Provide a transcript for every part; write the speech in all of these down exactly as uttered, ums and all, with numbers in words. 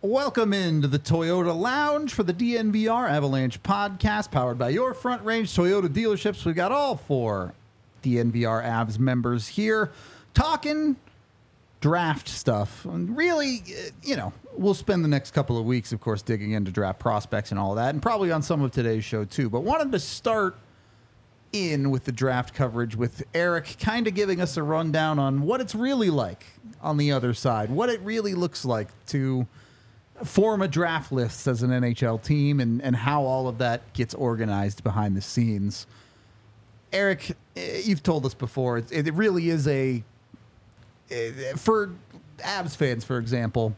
Welcome into the Toyota Lounge for the D N V R Avalanche podcast, powered by your Front Range Toyota dealerships. We've got all four D N V R Avs members here talking draft stuff. And really, you know, we'll spend the next couple of weeks, of course, digging into draft prospects and all of that, and probably on some of today's show too. But wanted to start in with the draft coverage with Eric kind of giving us a rundown on what it's really like on the other side, what it really looks like to form a draft list as an N H L team, and, and how all of that gets organized behind the scenes. Eric, you've told us before, it, it really is a, for Avs fans, for example,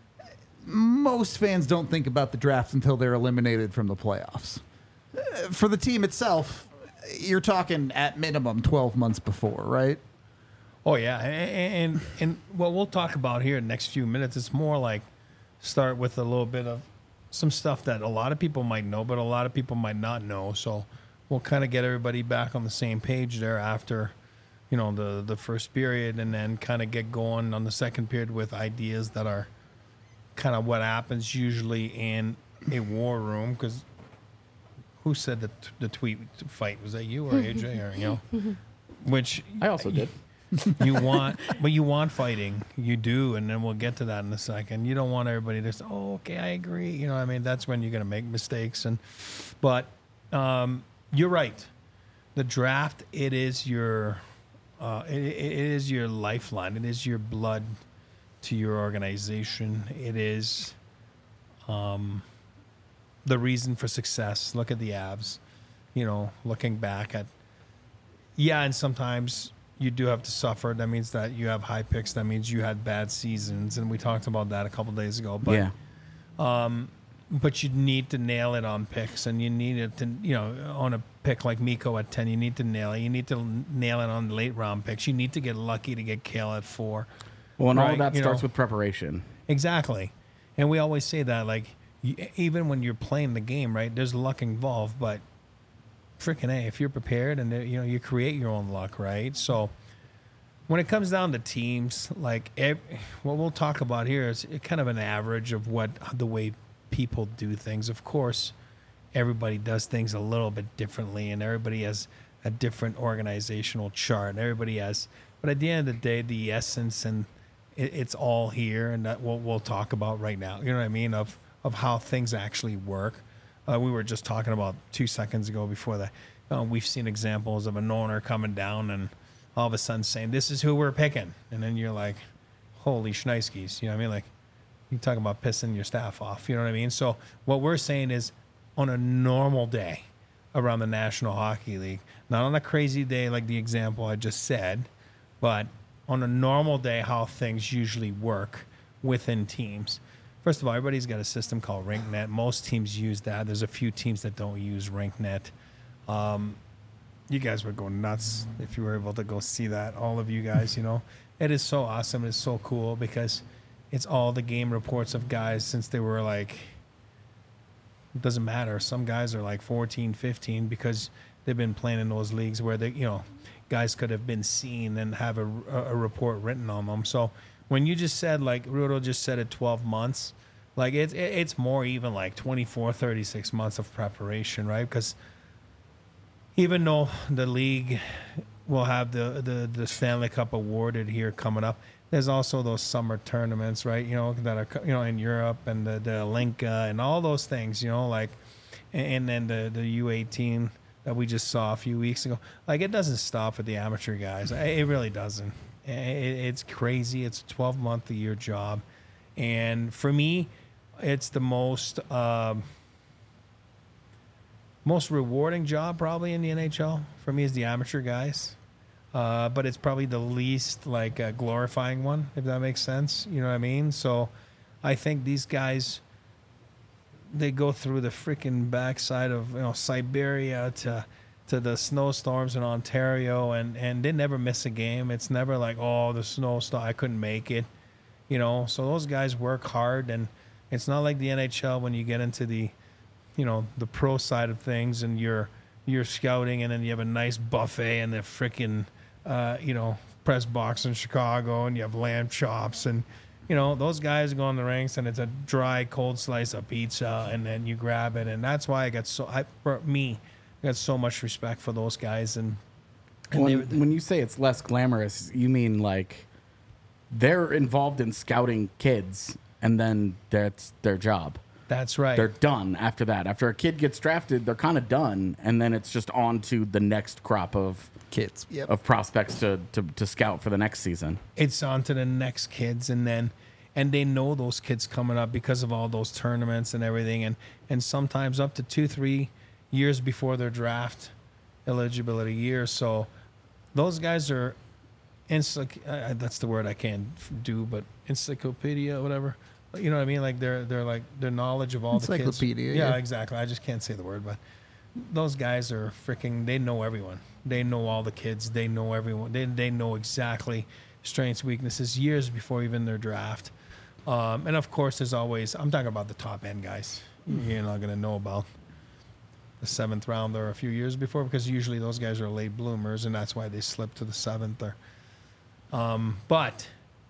most fans don't think about the draft until they're eliminated from the playoffs. For the team itself, you're talking at minimum twelve months before, right? Oh, yeah. And, and, and what we'll talk about here in the next few minutes, it's more like start with a little bit of some stuff that a lot of people might know, but a lot of people might not know. So we'll kind of get everybody back on the same page there after, you know, the, the first period, and then kind of get going on the second period with ideas that are kind of what happens usually in a war room. Because who said the, the tweet fight? Was that you or A J? Or, you know, which I also did. You want, but you want fighting. You do, and then we'll get to that in a second. You don't want everybody to say, "Oh, okay, I agree." You know what I mean? That's when you're going to make mistakes. And but um, you're right. The draft, it is your, uh, it, it is your lifeline. It is your blood to your organization. It is um, the reason for success. Look at the Avs. You know, looking back at, yeah, and sometimes you do have to suffer. That means that you have high picks. That means you had bad seasons, and we talked about that a couple days ago. But, yeah. Um, but you need to nail it on picks, and you need it to, you know, on a pick like Mikko at ten, you need to nail it. You need to nail it on late round picks. You need to get lucky to get Kale at four. Well, and right? all of that you starts know, with preparation. Exactly, and we always say that, like, you, even when you're playing the game, right? There's luck involved, but freaking A, if you're prepared and, you know, you create your own luck, right? So when it comes down to teams, like every, what we'll talk about here is kind of an average of what the way people do things. Of course, everybody does things a little bit differently, and everybody has a different organizational chart. Everybody has, but at the end of the day, the essence and it, it's all here, and that what we'll talk about right now. You know what I mean? Of of how things actually work. Uh, we were just talking about two seconds ago before that. Uh, we've seen examples of an owner coming down and all of a sudden saying, "This is who we're picking," and then you're like, "Holy shnikes!" You know what I mean? Like, you talk about pissing your staff off. You know what I mean? So what we're saying is, on a normal day around the National Hockey League, not on a crazy day like the example I just said, but on a normal day, how things usually work within teams. First of all, everybody's got a system called RinkNet. Most teams use that. There's a few teams that don't use RinkNet. Um, you guys would go nuts if you were able to go see that. All of you guys, you know. It is so awesome. It's so cool because it's all the game reports of guys since they were like, it doesn't matter. Some guys are like fourteen, fifteen because they've been playing in those leagues where they, you know, guys could have been seen and have a, a report written on them. So when you just said, like Rudo just said, at twelve months, like it's it's more even like twenty-four, thirty-six months of preparation, right? Because even though the league will have the, the, the Stanley Cup awarded here coming up, there's also those summer tournaments, right? You know, that are, you know, in Europe, and the, the Linka and all those things, you know, like, and then the, the U eighteen that we just saw a few weeks ago. Like, it doesn't stop at the amateur guys. It really doesn't. It, it's crazy. It's a twelve-month-a-year job. And for me, it's the most um, most rewarding job probably in the N H L. For me, is the amateur guys. Uh, but it's probably the least, like, uh, glorifying one, if that makes sense. You know what I mean? So I think these guys, they go through the freaking backside of, you know, Siberia to to the snowstorms in Ontario, and, and they never miss a game. It's never like, oh, the snowstorm, I couldn't make it. You know, so those guys work hard, and it's not like the N H L when you get into the, you know, the pro side of things, and you're you're scouting, and then you have a nice buffet and the freaking, uh, you know, press box in Chicago, and you have lamb chops, and you know, those guys go in the ranks and it's a dry, cold slice of pizza, and then you grab it, and that's why I got so I for me, I got so much respect for those guys. And, and When, they, when you say it's less glamorous, you mean like they're involved in scouting kids, and then that's their job. that's right. They're done after that. After a kid gets drafted, they're kind of done, and then it's just on to the next crop of Kids. Yep. of prospects to, to, to scout for the next season. It's on to the next kids, and then and they know those kids coming up because of all those tournaments and everything, and and sometimes up to two three years before their draft eligibility year. So those guys are encyc- uh, that's the word I can't f- do, but encyclopedia, whatever, you know what I mean, like they're they're like their knowledge of all the kids. Encyclopedia, Yeah, yeah. exactly. I just can't say the word, but those guys are freaking, they know everyone. They know all the kids. They know everyone. They, they know exactly strengths, weaknesses years before even their draft. Um, and of course, there's always, I'm talking about the top end guys. You're not going to know about the seventh rounder a few years before, because usually those guys are late bloomers, and that's why they slip to the seventh. Or, um, but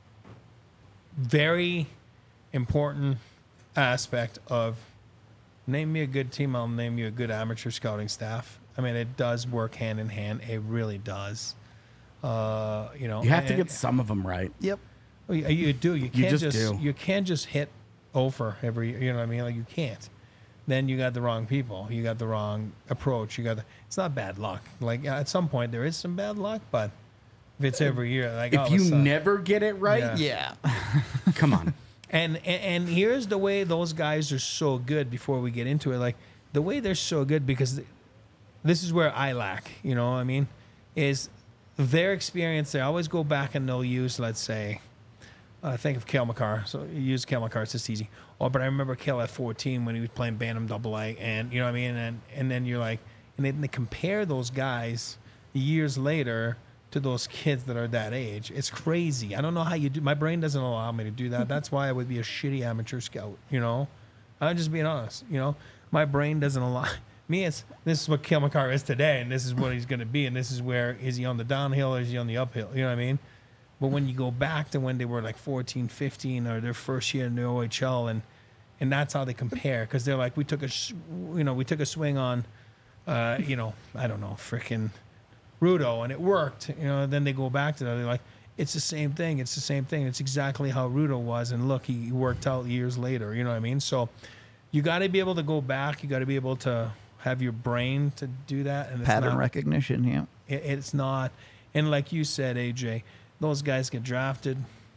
very important aspect of, name me a good team, I'll name you a good amateur scouting staff. I mean, it does work hand in hand. It really does. Uh, you know, You have to and- get some of them right. Yep. well, You, you do. You can't just just, do. you can't just hit over every. You know what I mean? Like, you can't. Then you got the wrong people. You got the wrong approach. You got the. It's not bad luck. Like, at some point there is some bad luck, but if it's every year, like all If of a you sudden- never get it right, Yeah. Yeah. come on. And, and and here's the way those guys are so good. Before we get into it, like the way they're so good, because th- this is where I lack. You know what I mean? Is their experience. They always go back and they'll use, let's say, uh, think of Cale Makar. So you use Cale Makar. It's just easy. Oh, but I remember Cale at fourteen when he was playing Bantam Double A, and you know what I mean. And and then you're like, and then they compare those guys years later to those kids that are that age. It's crazy. I don't know how you do. My brain doesn't allow me to do that. That's why I would be a shitty amateur scout. You know, I'm just being honest. You know, my brain doesn't allow me. It's this is what Cale Makar is today, and this is what he's going to be, and this is where is he on the downhill or is he on the uphill? You know what I mean? But when you go back to when they were like fourteen, fifteen, or their first year in the O H L, and and that's how they compare, because they're like, we took a, sh- you know, we took a swing on, uh, you know, I don't know, frickin' Rudo, and it worked. You know, then they go back to that. They're like, it's the same thing. It's the same thing. It's exactly how Rudo was, and look, he worked out years later. You know what I mean? So you got to be able to go back. You got to be able to have your brain to do that. And it's Pattern not, recognition. Yeah. it, it's not. And like you said, A J, those guys get drafted.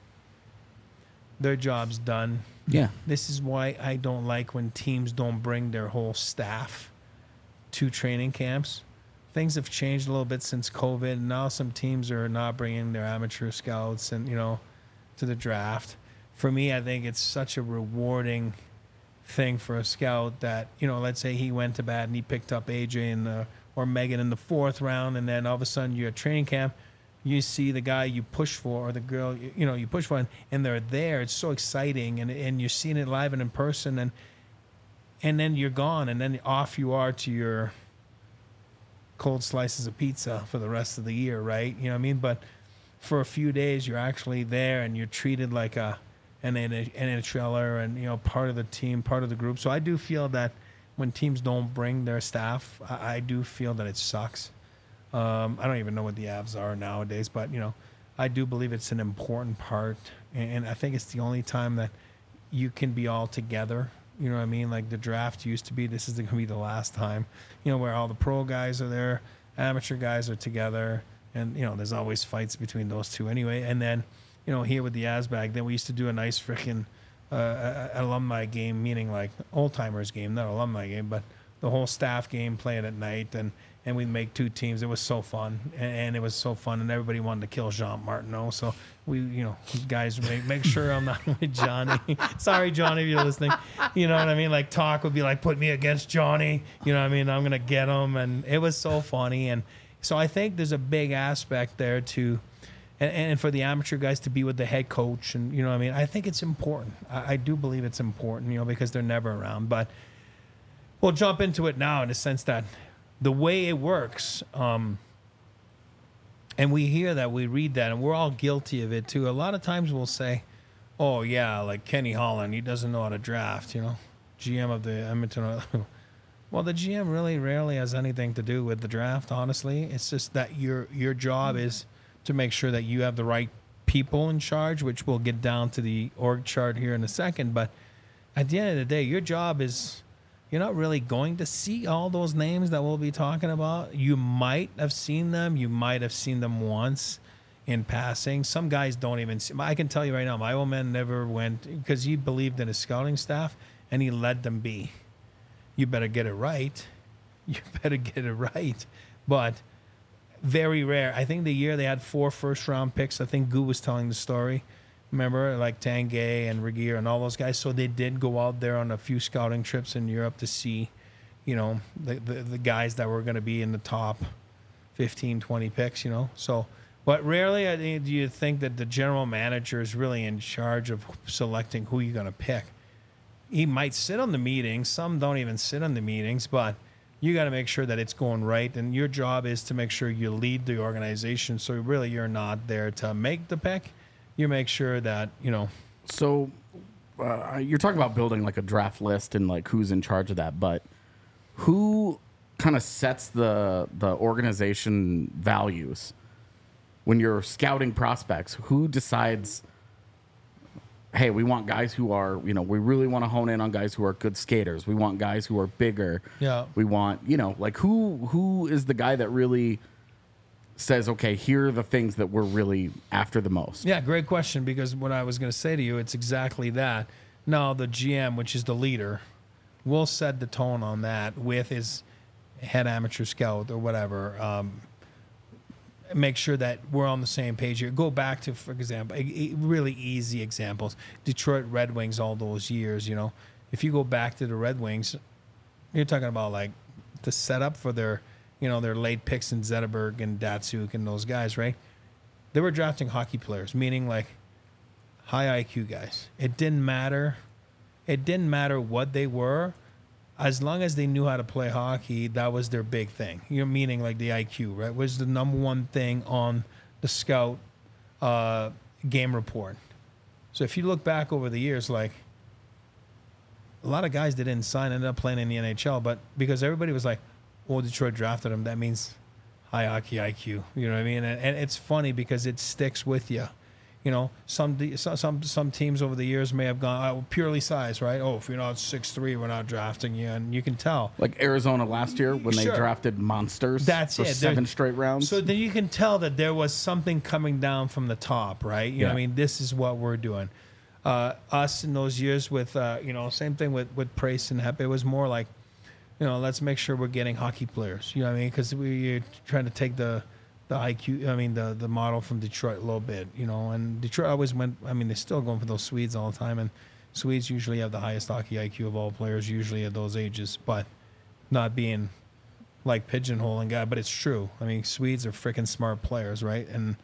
Their job's done. Yeah. This is why I don't like when teams don't bring their whole staff to training camps. Things have changed a little bit since COVID. Now some teams are not bringing their amateur scouts and, you know, to the draft. For me, I think it's such a rewarding thing for a scout that, you know, let's say he went to bat and he picked up A J in the, or Megan in the fourth round, and then all of a sudden you're at training camp, you see the guy you push for, or the girl, you, you know, you push for, and they're there. It's so exciting, and and you're seeing it live and in person, and and then you're gone, and then off you are to your cold slices of pizza for the rest of the year, right? You know what I mean? But for a few days, you're actually there, and you're treated like a an NHLer, and you know, part of the team, part of the group. So I do feel that when teams don't bring their staff, I, I do feel that it sucks. Um, I don't even know what the Avs are nowadays, but you know, I do believe it's an important part, and, and I think it's the only time that you can be all together. You know what I mean? Like the draft used to be. This is going to be the last time. You know, where all the pro guys are there, amateur guys are together, and you know, there's always fights between those two anyway. And then, you know, here with the Asbag, then we used to do a nice freaking uh, a- a- alumni game, meaning like old timers game, not alumni game, but the whole staff game, playing at night, and and we'd make two teams. It was so fun, and, and it was so fun, and everybody wanted to kill Jean Martineau. So we, you know, guys, make make sure I'm not with Johnny. Sorry, Johnny, if you're listening. You know what I mean? Like talk would be like, put me against Johnny. You know what I mean? I'm gonna get him, and it was so funny. And so I think there's a big aspect there to, and, and for the amateur guys to be with the head coach, and you know what I mean? I think it's important. I, I do believe it's important, you know, because they're never around. But we'll jump into it now in the sense that the way it works, um, and we hear that, we read that, and we're all guilty of it too. A lot of times we'll say, oh yeah, like Kenny Holland, he doesn't know how to draft, you know, G M of the Edmonton Oilers. Well, the G M really rarely has anything to do with the draft, honestly. It's just that your your job is to make sure that you have the right people in charge, which we'll get down to the org chart here in a second. But at the end of the day, your job is, you're not really going to see all those names that we'll be talking about. You might have seen them. You might have seen them once in passing. Some guys don't even see. I can tell you right now, my old man never went because he believed in his scouting staff and he let them be. You better get it right. You better get it right. But very rare. I think the year they had four first round picks, I think Goo was telling the story. Remember, like Tanguay and Regier and all those guys. So they did go out there on a few scouting trips in Europe to see, you know, the, the, the guys that were going to be in the top fifteen, twenty picks, you know. So, but rarely I think, do you think that the general manager is really in charge of selecting who you're going to pick. He might sit on the meetings. Some don't even sit on the meetings, but you got to make sure that it's going right. And your job is to make sure you lead the organization. So really you're not there to make the pick. You make sure that, you know. So uh, you're talking about building like a draft list and like who's in charge of that, but who kind of sets the the organization values when you're scouting prospects? Who decides, hey, we want guys who are, you know, we really want to hone in on guys who are good skaters. We want guys who are bigger. Yeah. We want, you know, like who who is the guy that really says, okay, here are the things that we're really after the most? Yeah, great question, because what I was going to say to you, it's exactly that. Now, the G M, which is the leader, will set the tone on that with his head amateur scout or whatever. Um, make sure that we're on the same page here. Go back to, for example, a, a really easy examples. Detroit Red Wings all those years, you know. If you go back to the Red Wings, you're talking about like the setup for their, you know, their late picks in Zetterberg and Datsuk and those guys, right? They were drafting hockey players, meaning like high I Q guys. It didn't matter. It didn't matter what they were. As long as they knew how to play hockey, that was their big thing. You know, meaning like the I Q, right? Was the number one thing on the scout uh, game report. So if you look back over the years, like a lot of guys that didn't sign ended up playing in the N H L, but because everybody was like, "Oh, Detroit drafted him," that means high hockey I Q. You know what I mean? And, and it's funny because it sticks with you. You know, some some some teams over the years may have gone oh, purely size, right? Oh, if you're not six three, we're not drafting you, and you can tell. Like Arizona last year when Sure. they drafted monsters That's for it. seven There's- straight rounds. So then you can tell that there was something coming down from the top, right? You know what I Yeah. mean? This is what we're doing. Uh, us in those years with, uh, you know, same thing with, with Price and Hep. It was more like, you know, let's make sure we're getting hockey players. You know what I mean? Because we're trying to take the the I Q, I mean, the the model from Detroit a little bit, you know. And Detroit always went, I mean, they're still going for those Swedes all the time. And Swedes usually have the highest hockey I Q of all players, usually at those ages. But not being like pigeonholing guy, but it's true. I mean, Swedes are freaking smart players, right? And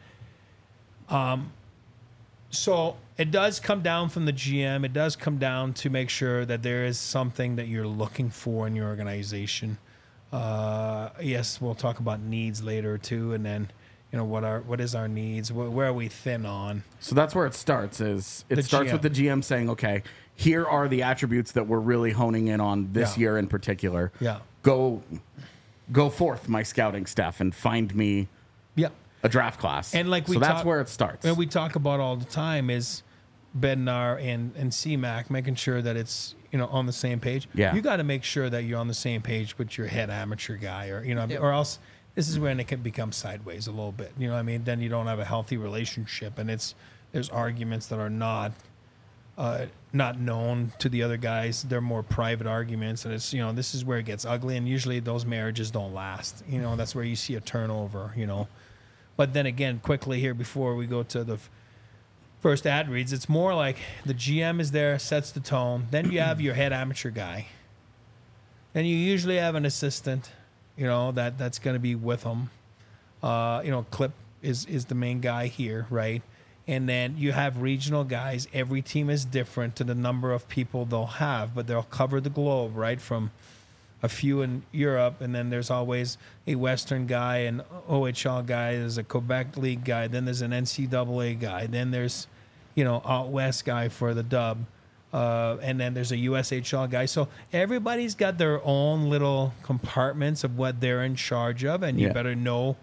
um, so it does come down from the G M. It does come down to make sure that there is something that you're looking for in your organization. Uh, yes, we'll talk about needs later too, and then you know what are what is our needs? Where, where are we thin on? So that's where it starts. Is it The starts G M. with the G M saying, okay, here are the attributes that we're really honing in on this Yeah. year in particular. Yeah. Go, go forth, my scouting staff, and find me Yeah. a draft class. And like we so that's talk- where it starts. And we talk about all the time is Bednar and and C MAC making sure that it's you know on the same page. Yeah. You got to make sure that you're on the same page with your head amateur guy, or you know, Yep. or else this is when it can become sideways a little bit. You know what I mean? Then you don't have a healthy relationship, and it's there's arguments that are not uh, not known to the other guys. They're more private arguments, and it's you know this is where it gets ugly, and usually those marriages don't last. You know that's where you see a turnover. You know, but then again, quickly here before we go to the f- first ad reads, it's more like the G M is there, sets the tone. Then you have your head amateur guy. Then you usually have an assistant, you know, that, that's going to be with them. Uh, you know, Clip is, is the main guy here, right? And then you have regional guys. Every team is different to the number of people they'll have, but they'll cover the globe, right? From a few in Europe, and then there's always a Western guy, an O H L guy, there's a Quebec League guy, then there's an N C double A guy, then there's, you know, out west guy for the Dub. Uh, and then there's a U S H L guy. So everybody's got their own little compartments of what they're in charge of, and you Yeah. better know.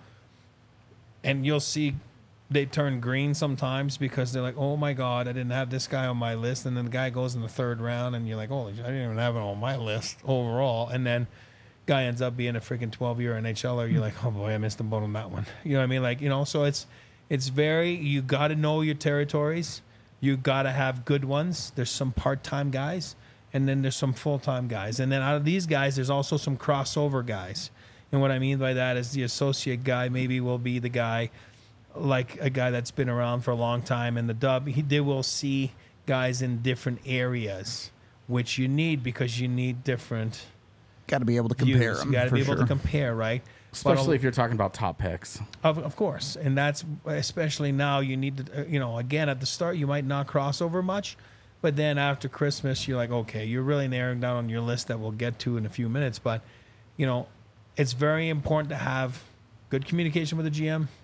And you'll see they turn green sometimes because they're like, oh my God, I didn't have this guy on my list. And then the guy goes in the third round, and you're like, oh, I didn't even have it on my list overall. And then guy ends up being a freaking twelve-year N H L er. You're like, oh boy, I missed the boat on that one. You know what I mean? Like, you know, so it's it's very, you got to know your territories. You got to have good ones. There's some part-time guys, and then there's some full-time guys. And then out of these guys, there's also some crossover guys. And what I mean by that is the associate guy maybe will be the guy, like a guy that's been around for a long time. And the Dub, he, they will see guys in different areas, which you need because you need different Got to be able to compare views. them. You got to for be able sure. to compare, right? Especially But, if you're talking about top picks. Of, of course. And that's especially now you need to, uh, you know, again, at the start, you might not cross over much. But then after Christmas, you're like, okay, you're really narrowing down on your list that we'll get to in a few minutes. But, you know, it's very important to have good communication with the G M,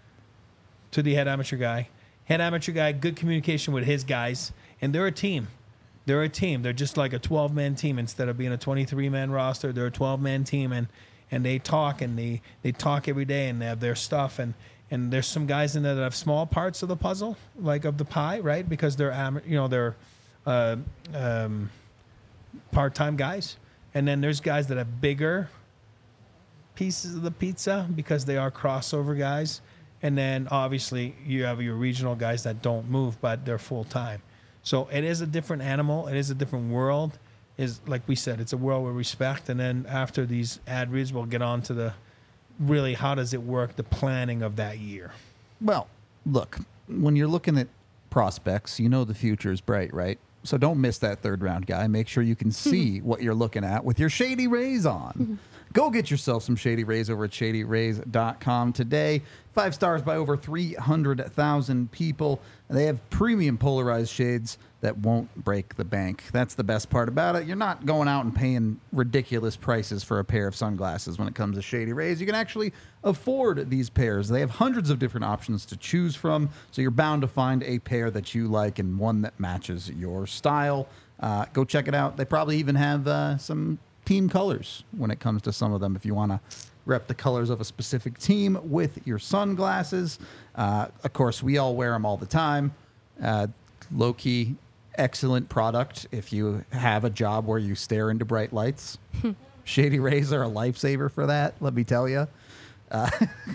to the head amateur guy. Head amateur guy, good communication with his guys. And they're a team. They're a team. They're just like a twelve-man team instead of being a twenty-three-man roster. They're a twelve-man team, and and they talk, and they, they talk every day, and they have their stuff. And, and there's some guys in there that have small parts of the puzzle, like of the pie, right? Because they're, am- you know, they're uh, um, part-time guys. And then there's guys that have bigger pieces of the pizza because they are crossover guys. And then obviously you have your regional guys that don't move, but they're full-time. So it is a different animal. It is a different world. Is like we said, it's a world with respect. And then after these ad reads, we'll get on to the really how does it work, the planning of that year. Well, look, when you're looking at prospects, you know the future is bright, right? So don't miss that third round guy. Make sure you can see what you're looking at with your Shady Rays on. Go get yourself some Shady Rays over at shady rays dot com today. Five stars by over three hundred thousand people. They have premium polarized shades that won't break the bank. That's the best part about it. You're not going out and paying ridiculous prices for a pair of sunglasses when it comes to Shady Rays. You can actually afford these pairs. They have hundreds of different options to choose from, so you're bound to find a pair that you like and one that matches your style. Uh, go check it out. They probably even have uh, some team colors when it comes to some of them if you want to rep the colors of a specific team with your sunglasses. Uh, of course, we all wear them all the time. Uh, low-key, excellent product if you have a job where you stare into bright lights. Shady Rays are a lifesaver for that, let me tell you. Uh,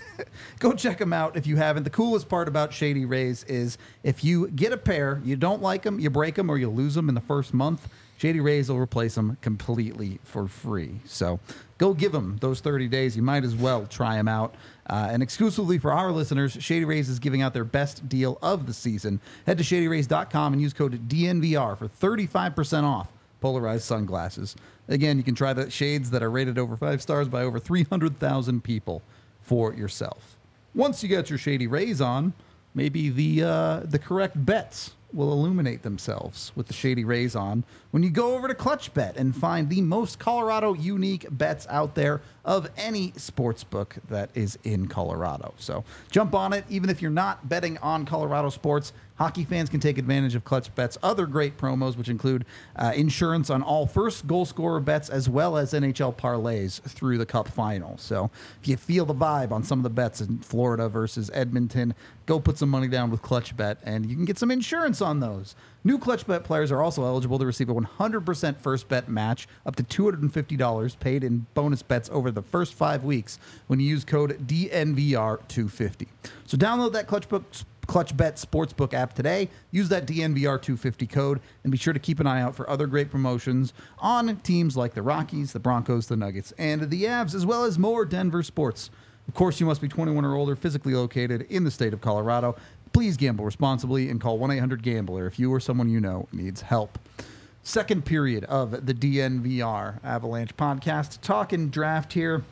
go check them out if you haven't. The coolest part about Shady Rays is if you get a pair, you don't like them, you break them, or you lose them in the first month, Shady Rays will replace them completely for free. So go give them those thirty days. You might as well try them out. Uh, and exclusively for our listeners, Shady Rays is giving out their best deal of the season. Head to shady rays dot com and use code D N V R for thirty-five percent off polarized sunglasses. Again, you can try the shades that are rated over five stars by over three hundred thousand people for yourself. Once you get your Shady Rays on, maybe the uh, the correct bets will illuminate themselves with the Shady Rays on when you go over to ClutchBet and find the most Colorado unique bets out there of any sports book that is in Colorado. So jump on it. Even if you're not betting on Colorado sports, hockey fans can take advantage of ClutchBet's other great promos, which include uh, insurance on all first goal scorer bets as well as N H L parlays through the Cup final. So if you feel the vibe on some of the bets in Florida versus Edmonton, go put some money down with ClutchBet and you can get some insurance on those. New ClutchBet players are also eligible to receive a one hundred percent first bet match up to two hundred fifty dollars paid in bonus bets over the first five weeks when you use code D N V R two fifty. So download that ClutchBet ClutchBet Sportsbook app today. Use that D N V R two fifty code and be sure to keep an eye out for other great promotions on teams like the Rockies, the Broncos, the Nuggets, and the Avs, as well as more Denver sports. Of course, you must be twenty-one or older, physically located in the state of Colorado. Please gamble responsibly and call one eight hundred gambler if you or someone you know needs help. Second period of the D N V R Avalanche podcast. Talking draft here.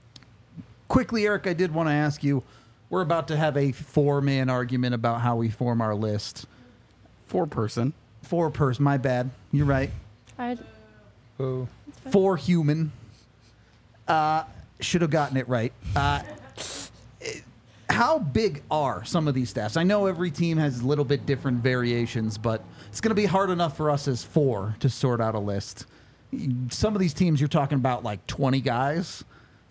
Quickly, Eric, I did want to ask you, we're about to have a four-man argument about how we form our list. Four person. Four person, my bad. You're right. I'd, Oh. Four human. Uh, should have gotten it right. Uh, it- how big are some of these staffs? I know every team has a little bit different variations, but it's going to be hard enough for us as four to sort out a list. Some of these teams, you're talking about like twenty guys.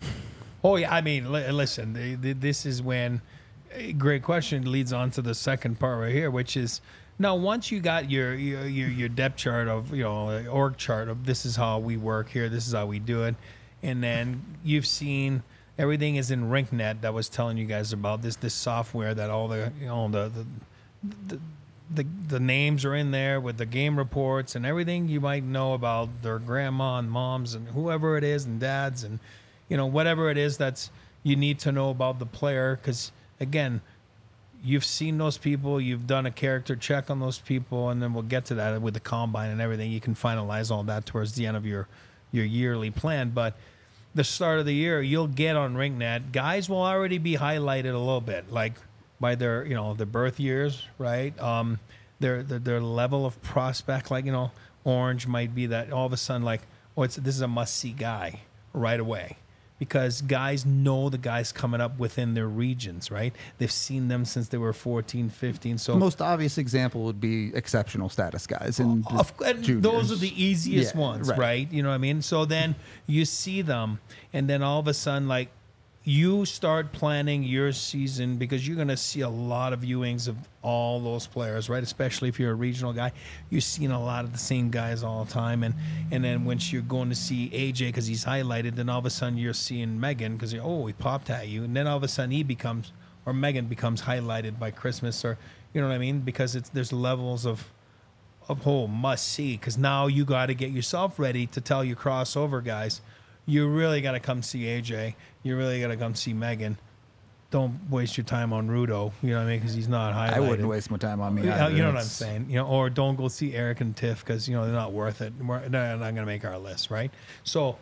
Oh, yeah. I mean, li- listen, the, the, this is when a great question leads on to the second part right here, which is now once you got your, your, your, your depth chart of, you know, org chart of this is how we work here, this is how we do it. And then you've seen everything is in RinkNet that was telling you guys about this, this software that all the, you know, the, the, the The, the names are in there with the game reports and everything you might know about their grandma and moms and whoever it is and dads and, you know, whatever it is that's you need to know about the player. Because, again, you've seen those people. You've done a character check on those people. And then we'll get to that with the combine and everything. You can finalize all that towards the end of your, your yearly plan. But the start of the year, you'll get on RinkNet. Guys will already be highlighted a little bit. Like, by their, you know, their birth years, right? Um, their, their their level of prospect, like, you know, Orange might be that all of a sudden, like, oh, it's this is a must-see guy right away. Because guys know the guys coming up within their regions, right? They've seen them since they were fourteen, fifteen. So The most obvious example would be exceptional status guys. And Of, and those are the easiest Yeah, ones, right. right. You know what I mean? So then you see them, and then all of a sudden, like, you start planning your season because you're going to see a lot of viewings of all those players, right? Especially if you're a regional guy. You're seeing a lot of the same guys all the time. And, and then once you're going to see A J because he's highlighted, then all of a sudden you're seeing Megan because, oh, he popped at you. And then all of a sudden he becomes, or Megan becomes highlighted by Christmas, or, you know what I mean? Because it's there's levels of, of whole must see, because now you got to get yourself ready to tell your crossover guys, you really got to come see A J. You really got to come see Megan. Don't waste your time on Rudo, you know what I mean? Because he's not highlighted. I wouldn't waste my time on me. You know, either. you know what I'm It's- saying? You know, or don't go see Eric and Tiff because, you know, they're not worth it. We're, they're not going to make our list, right? So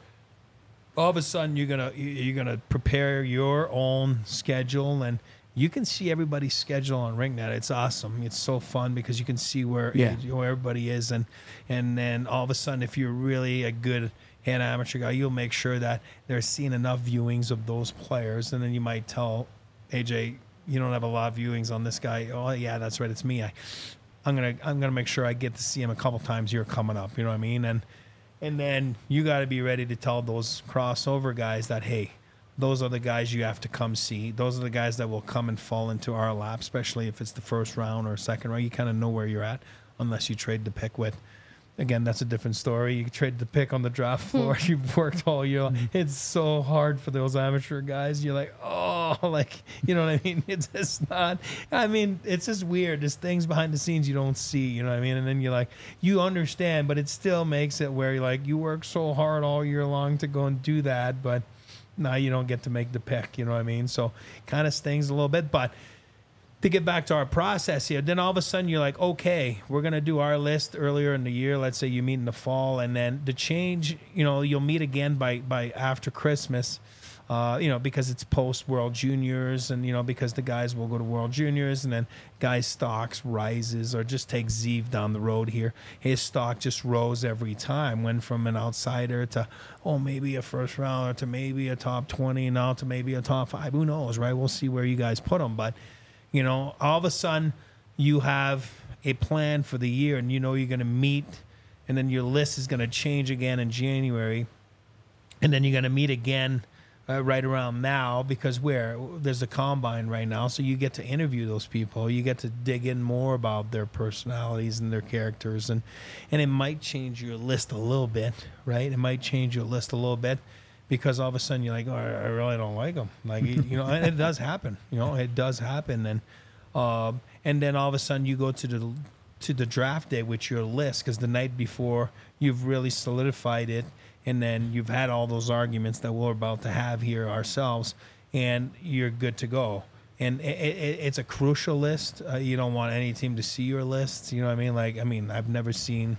all of a sudden you're gonna you're gonna prepare your own schedule, and you can see everybody's schedule on RinkNet. It's awesome. It's so fun because you can see where Yeah. where everybody is, and and then all of a sudden, if you're really a good head amateur guy, you'll make sure that they're seeing enough viewings of those players, and then you might tell A J, you don't have a lot of viewings on this guy. Oh yeah, that's right, it's me. I, I'm gonna I'm gonna make sure I get to see him a couple times here coming up. You know what I mean? And and then you got to be ready to tell those crossover guys that, hey, those are the guys you have to come see. Those are the guys that will come and fall into our lap, especially if it's the first round or second round. You kind of know where you're at unless you trade the pick with. Again, that's a different story. You trade the pick on the draft floor. You've worked all year. It's so hard for those amateur guys. You're like, oh, like, you know what I mean? It's just not, I mean, it's just weird. There's things behind the scenes you don't see, you know what I mean? And then you're like, you understand, but it still makes it where you're like, you work so hard all year long to go and do that, but now you don't get to make the pick, you know what I mean? So kind of stings a little bit, but to get back to our process here, then all of a sudden you're like, okay, we're going to do our list earlier in the year. Let's say you meet in the fall, and then the change, you know, you'll meet again by, by after Christmas, uh, you know, because it's post World Juniors, and, you know, because the guys will go to World Juniors, and then guys' stocks rises, or just take Zeev down the road here. His stock just rose every time, went from an outsider to, oh, maybe a first rounder to maybe a top twenty, now to maybe a top five. Who knows, right? We'll see where you guys put him, but you know, all of a sudden you have a plan for the year, and you know you're going to meet, and then your list is going to change again in January, and then you're going to meet again uh, right around now, because where there's a combine right now, so you get to interview those people. You get to dig in more about their personalities and their characters, and and it might change your list a little bit, right? It might change your list a little bit. Because all of a sudden you're like, oh, I really don't like them. Like, you know, and it does happen. You know, it does happen. And um, and then all of a sudden you go to the to the draft day with your list, because the night before you've really solidified it, and then you've had all those arguments that we're about to have here ourselves, and you're good to go. And it, it, it's a crucial list. Uh, you don't want any team to see your list. You know what I mean? Like, I mean, I've never seen.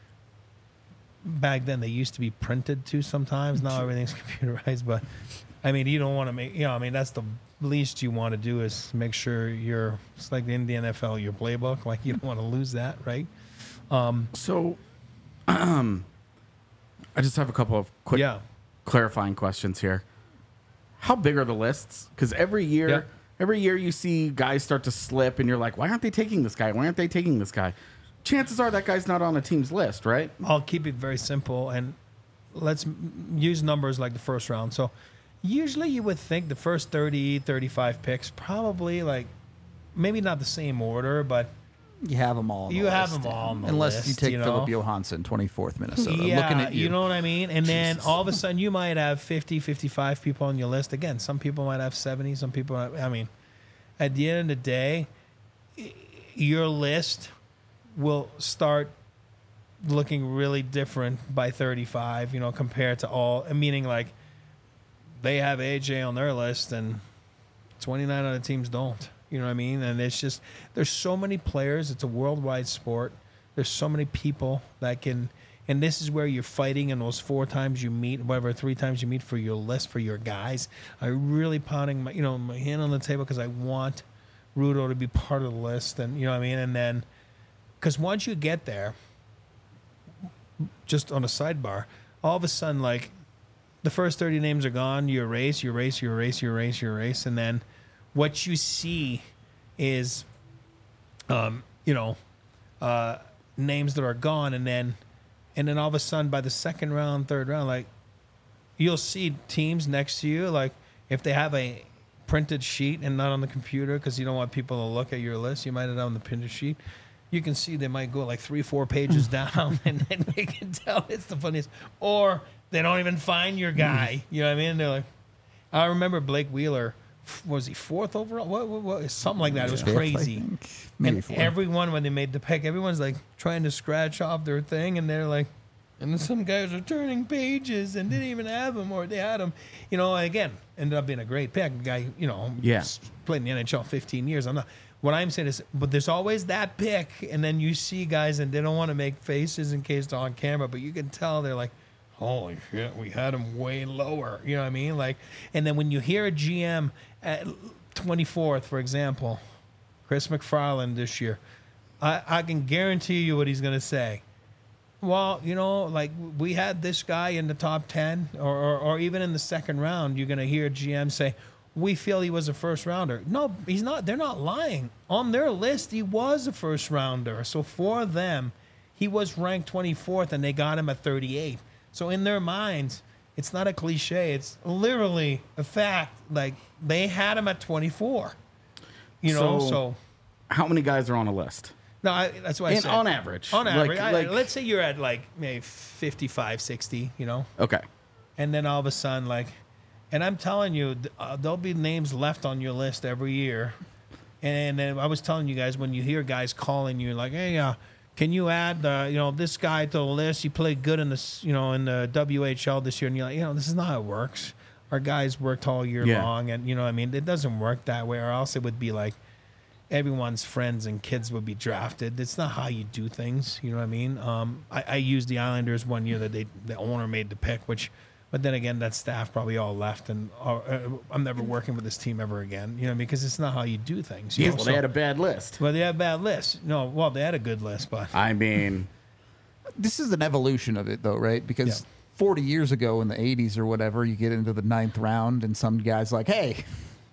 Back then, they used to be printed too sometimes. Now everything's computerized. But, I mean, you don't want to make, you know, I mean, that's the least you want to do is make sure you're, it's like in the N F L, your playbook. Like, you don't want to lose that, right? Um, So, um, I just have a couple of quick yeah. clarifying questions here. How big are the lists? Because every year, Yeah. every year you see guys start to slip, and you're like, why aren't they taking this guy? Why aren't they taking this guy? Chances are that guy's not on a team's list, right? I'll keep it very simple, and let's m- use numbers like the first round. So usually you would think the first thirty, thirty-five picks, probably like maybe not the same order, but You have them all. On You the have list. them all on the Unless list, you take you know? Philip Johansson, twenty-fourth Minnesota. yeah, Looking at you. know what I mean? And then Jesus. all of a sudden you might have fifty, fifty-five people on your list. Again, some people might have seventy, some people, have, I mean, at the end of the day, y- your list will start looking really different by thirty-five, you know, compared to all, meaning like they have A J on their list and twenty-nine other teams don't. You know what I mean? And it's just, there's so many players. It's a worldwide sport. There's so many people that can, and this is where you're fighting in those four times you meet, whatever, three times you meet for your list, for your guys. I'm really pounding my, you know, my hand on the table because I want Rudo to be part of the list. And, you know what I mean? And then, because once you get there, just on a sidebar, all of a sudden, like, the first thirty names are gone. You erase, you erase, you erase, you erase, you erase. And then what you see is, um, you know, uh, names that are gone. And then, and then all of a sudden, by the second round, third round, like, you'll see teams next to you, like, if they have a printed sheet and not on the computer because you don't want people to look at your list, you might have it on the printed sheet. You can see they might go like three, four pages down, and then you can tell it's the funniest. Or they don't even find your guy. You know what I mean? They're like, I remember Blake Wheeler. Was he fourth overall? What, what, what something like that. It was Fifth, I crazy. think. Maybe And fourth. everyone, when they made the pick, everyone's like trying to scratch off their thing, and they're like, and then some guys are turning pages and didn't even have them, or they had them. You know, again, ended up being a great pick. The guy, you know, Yeah. played in the N H L fifteen years. I'm not. What I'm saying is, but there's always that pick, and then you see guys, and they don't want to make faces in case they're on camera, but you can tell they're like, holy shit, we had him way lower. You know what I mean? Like, and then when you hear a G M at twenty-fourth, for example, Chris McFarland this year, I, I can guarantee you what he's going to say. Well, you know, like, we had this guy in the top ten, or, or, or even in the second round, you're going to hear G M say, we feel he was a first rounder. No, he's not. They're not lying. On their list, he was a first rounder. So for them, he was ranked twenty-fourth, and they got him at thirty-eight. So in their minds, it's not a cliche. It's literally a fact. Like, they had him at twenty-four. You know, So- so, How many guys are on a list? no, I, that's what I And said. on average. On Like- average, I- like- let's say you're at like maybe fifty-five, sixty, you know? Okay. And then all of a sudden, like, and I'm telling you, th- uh, there'll be names left on your list every year. And then I was telling you guys, when you hear guys calling you, like, hey, uh, can you add, uh, you know, this guy to the list? He played good in the, you know, in the W H L this year, and you're like, you know, this is not how it works. Our guys worked all year Yeah. long, and you know, what I mean, it doesn't work that way. Or else it would be like everyone's friends and kids would be drafted. It's not how you do things. You know what I mean? Um, I, I used the Islanders one year that they the owner made the pick, which. But then again, that staff probably all left, and uh, uh, I'm never working with this team ever again. You know, because it's not how you do things. You Yeah, know? well, So- they had a bad list. well, they had a bad list. No, well, they had a good list, but I mean, This is an evolution of it, though, right? Because Yeah. forty years ago in the eighties or whatever, you get into the ninth round, and some guy's like, hey,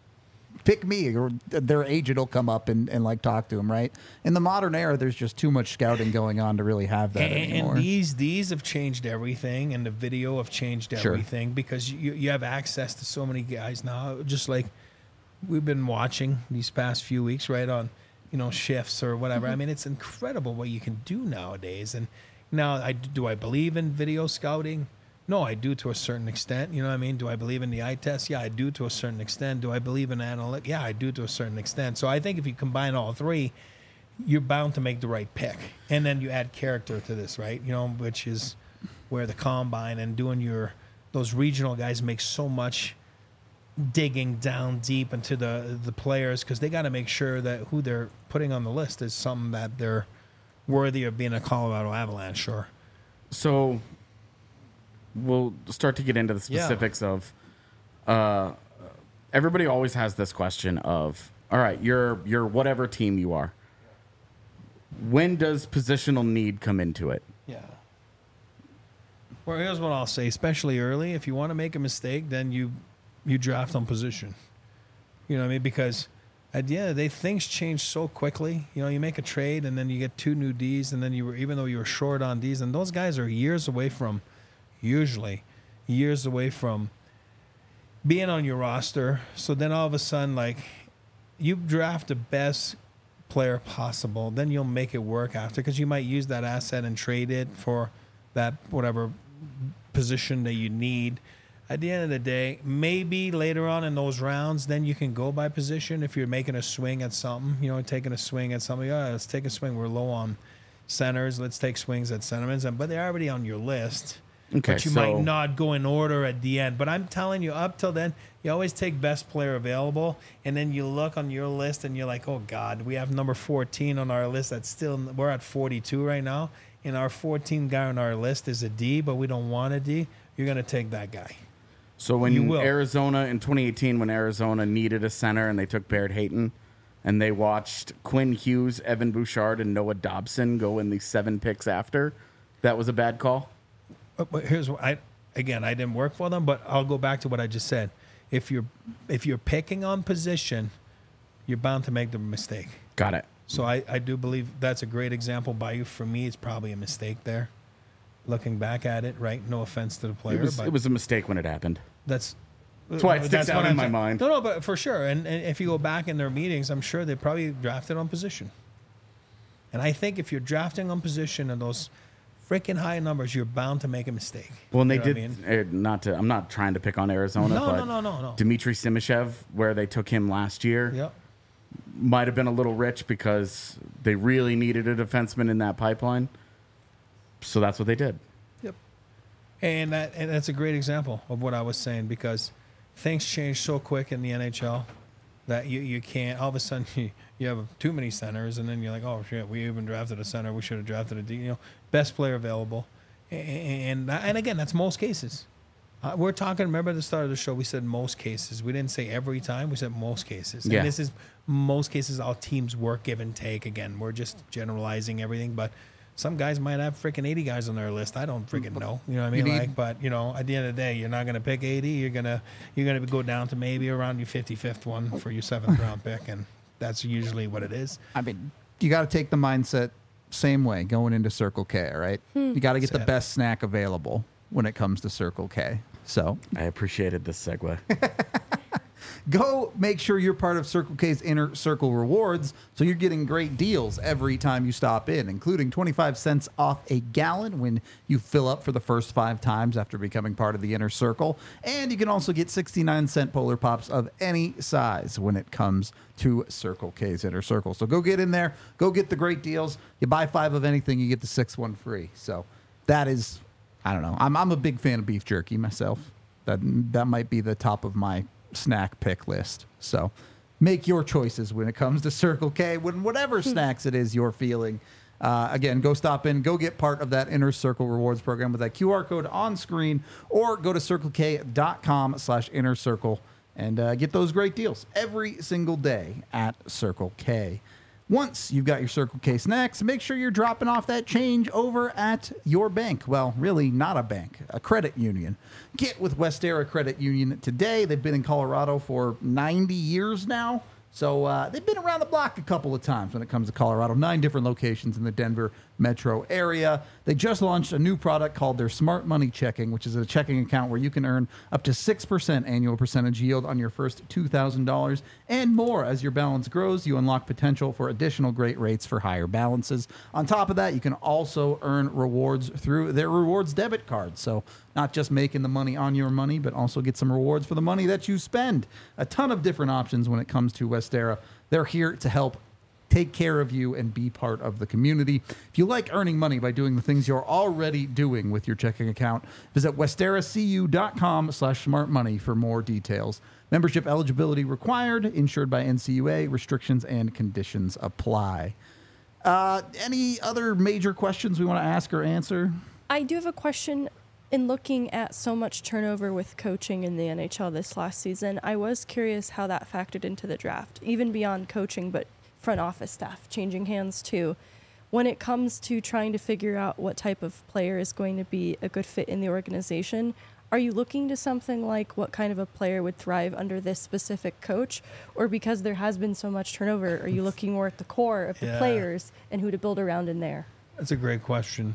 pick me, or their agent will come up and, and like talk to him, right? In the modern era, there's just too much scouting going on to really have that and, anymore. and these these have changed everything, and the video have changed Sure. everything because you you have access to so many guys now. Just like we've been watching these past few weeks, right on, you know, shifts or whatever. I mean, it's incredible what you can do nowadays. And now, I do I believe in video scouting? No, I do to a certain extent. You know what I mean? Do I believe in the eye test? Yeah, I do to a certain extent. Do I believe in analytics? Yeah, I do to a certain extent. So I think if you combine all three, you're bound to make the right pick. And then you add character to this, right? You know, which is where the combine and doing your those regional guys make so much digging down deep into the the players because they got to make sure that who they're putting on the list is something that they're worthy of being a Colorado Avalanche. Sure. so we'll start to get into the Yeah. specifics of. Uh, everybody always has this question of, all right, you're you're whatever team you are. When does positional need come into it? Yeah. Well, here's what I'll say, especially early. If you want to make a mistake, then you you draft on position. You know what I mean? Because at the end of the day, things change so quickly. You know, you make a trade and then you get two new Ds, and then you were, even though you were short on Ds, and those guys are years away from, usually, years away from being on your roster. So then all of a sudden, like, you draft the best player possible, then you'll make it work after, because you might use that asset and trade it for that whatever position that you need. At the end of the day, maybe later on in those rounds, then you can go by position if you're making a swing at something, you know, taking a swing at something. Oh, let's take a swing. We're low on centers. Let's take swings at centermans. And but they're already on your list. Okay, but you so might not go in order at the end. But I'm telling you, up till then, you always take best player available, and then you look on your list and you're like, oh God, we have number fourteen on our list. That's still, we're at forty-two right now, and our fourteen guy on our list is a D, but we don't want a D. You're gonna take that guy. So when You will. Arizona in twenty eighteen, when Arizona needed a center and they took Baird Hayton, and they watched Quinn Hughes, Evan Bouchard, and Noah Dobson go in the seven picks after, that was a bad call. But, but here's what I again I didn't work for them, but I'll go back to what I just said. If you're if you're picking on position, you're bound to make the mistake. Got it. So I, I do believe that's a great example by you. For me, it's probably a mistake there. Looking back at it, right? No offense to the player, It was, but it was a mistake when it happened. that's That's why it sticks that's out what in I'm my saying. mind. No, no, but for sure. And, and if you go back in their meetings, I'm sure they probably drafted on position. And I think if you're drafting on position and those freaking high numbers, you're bound to make a mistake. Well, and they You know did. what I mean? uh, not to. I'm not trying to pick on Arizona, No, but no, no, no, no. Dmitry Simashev, where they took him last year, Yep. might have been a little rich because they really needed a defenseman in that pipeline. So that's what they did. Yep. And that and that's a great example of what I was saying, because things change so quick in the N H L that you, you can't all of a sudden you, you have too many centers, and then you're like, oh shit, we even drafted a center, we should have drafted a D. You know, best player available, and and, and again, that's most cases. Uh, we're talking. Remember at the start of the show, we said most cases. We didn't say every time. We said most cases. Yeah. And this is most cases. All teams work, give and take. Again, we're just generalizing everything, but some guys might have freaking eighty guys on their list. I don't freaking know. You know what I mean? You need- Like, but you know, at the end of the day, you're not going to pick eighty. You're gonna you're gonna go down to maybe around your fifty-fifth one for your seventh round pick, and that's usually what it is. I mean, you got to take the mindset same way going into Circle K, right? You got to get the Sad. best snack available when it comes to Circle K. So I appreciated this segue. go make sure you're part of Circle K's Inner Circle Rewards, so you're getting great deals every time you stop in, including twenty-five cents off a gallon when you fill up for the first five times after becoming part of the Inner Circle. And you can also get sixty-nine cent Polar Pops of any size when it comes to Circle K's Inner Circle. So go get in there. Go get the great deals. You buy five of anything, you get the sixth one free. So that is, I don't know. I'm, I'm a big fan of beef jerky myself. That, that might be the top of my snack pick list. So make your choices when it comes to Circle K, when whatever snacks it is you're feeling. Uh, again, go stop in, go get part of that Inner Circle Rewards program with that Q R code on screen, or go to circlek.com slash inner circle and uh, get those great deals every single day at Circle K. Once you've got your Circle K snacks, make sure you're dropping off that change over at your bank. Well, really not a bank, a credit union. Get with Westera Credit Union today. They've been in Colorado for ninety years now. So uh, they've been around the block a couple of times when it comes to Colorado. Nine different locations in the Denver metro area. They just launched a new product called their Smart Money Checking, which is a checking account where you can earn up to six percent annual percentage yield on your first two thousand dollars and more. As your balance grows, you unlock potential for additional great rates for higher balances. On top of that, you can also earn rewards through their rewards debit card. So not just making the money on your money, but also get some rewards for the money that you spend. A ton of different options when it comes to Westera. They're here to help take care of you and be part of the community. If you like earning money by doing the things you're already doing with your checking account, visit westeracu.com slash smart money for more details. Membership eligibility required, insured by N C U A. Restrictions and conditions apply. Uh, any other major questions we want to ask or answer? I do have a question. In looking at so much turnover with coaching in the N H L this last season, I was curious how that factored into the draft, even beyond coaching, but front office staff changing hands too. when it comes to trying to figure out what type of player is going to be a good fit in the organization, are you looking to something like what kind of a player would thrive under this specific coach? Or because there has been so much turnover, are you looking more at the core of the Yeah. players and who to build around in there? That's a great question.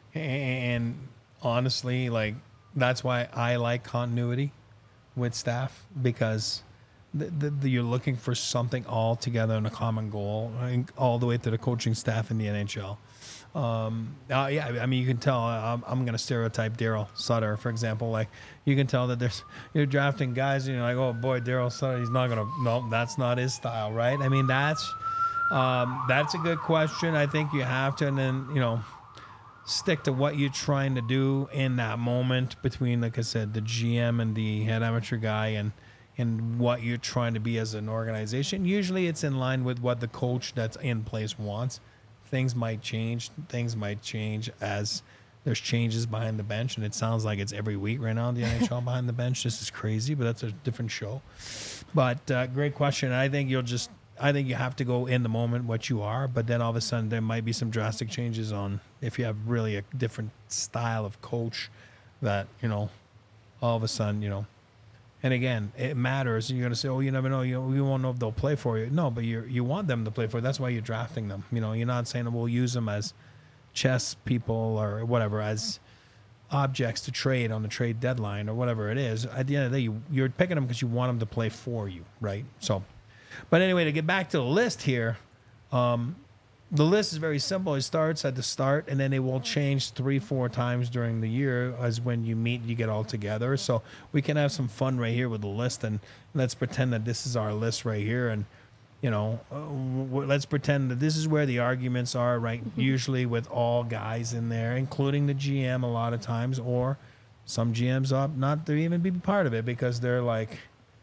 And honestly, like, that's why I like continuity with staff, because the, the, the, you're looking for something all together in a common goal, I think, all the way to the coaching staff in the N H L. Um, uh, yeah, I mean, you can tell. I'm, I'm going to stereotype Daryl Sutter, for example. Like, you can tell that there's you're drafting guys, and you're like, oh boy, Daryl Sutter, he's not going to. No, that's not his style, right? I mean, that's um, that's a good question. I think you have to, and then you know, stick to what you're trying to do in that moment between, like I said, the G M and the head amateur guy, and and what you're trying to be as an organization. Usually, it's in line with what the coach that's in place wants. Things might change. Things might change as there's changes behind the bench, and it sounds like it's every week right now in the N H L behind the bench. This is crazy, but that's a different show. But uh, great question. I think you'll just, I think you have to go in the moment what you are, but then all of a sudden there might be some drastic changes on if you have really a different style of coach that, you know, all of a sudden, you know. And again, it matters. And you're going to say, oh, you never know. You, you won't know if they'll play for you. No, but you you want them to play for you. That's why you're drafting them. You know, you're not saying we'll use them as chess people or whatever, as objects to trade on the trade deadline or whatever it is. At the end of the day, you, you're picking them because you want them to play for you, right? So, but anyway, to get back to the list here, um, the list is very simple. It starts at the start, and then it will change three, four times during the year as when you meet, you get all together. So we can have some fun right here with the list, and let's pretend that this is our list right here. And, you know, uh, w- let's pretend that this is where the arguments are, right? Usually with all guys in there, including the G M a lot of times, or some G Ms up not to even be part of it because they're like,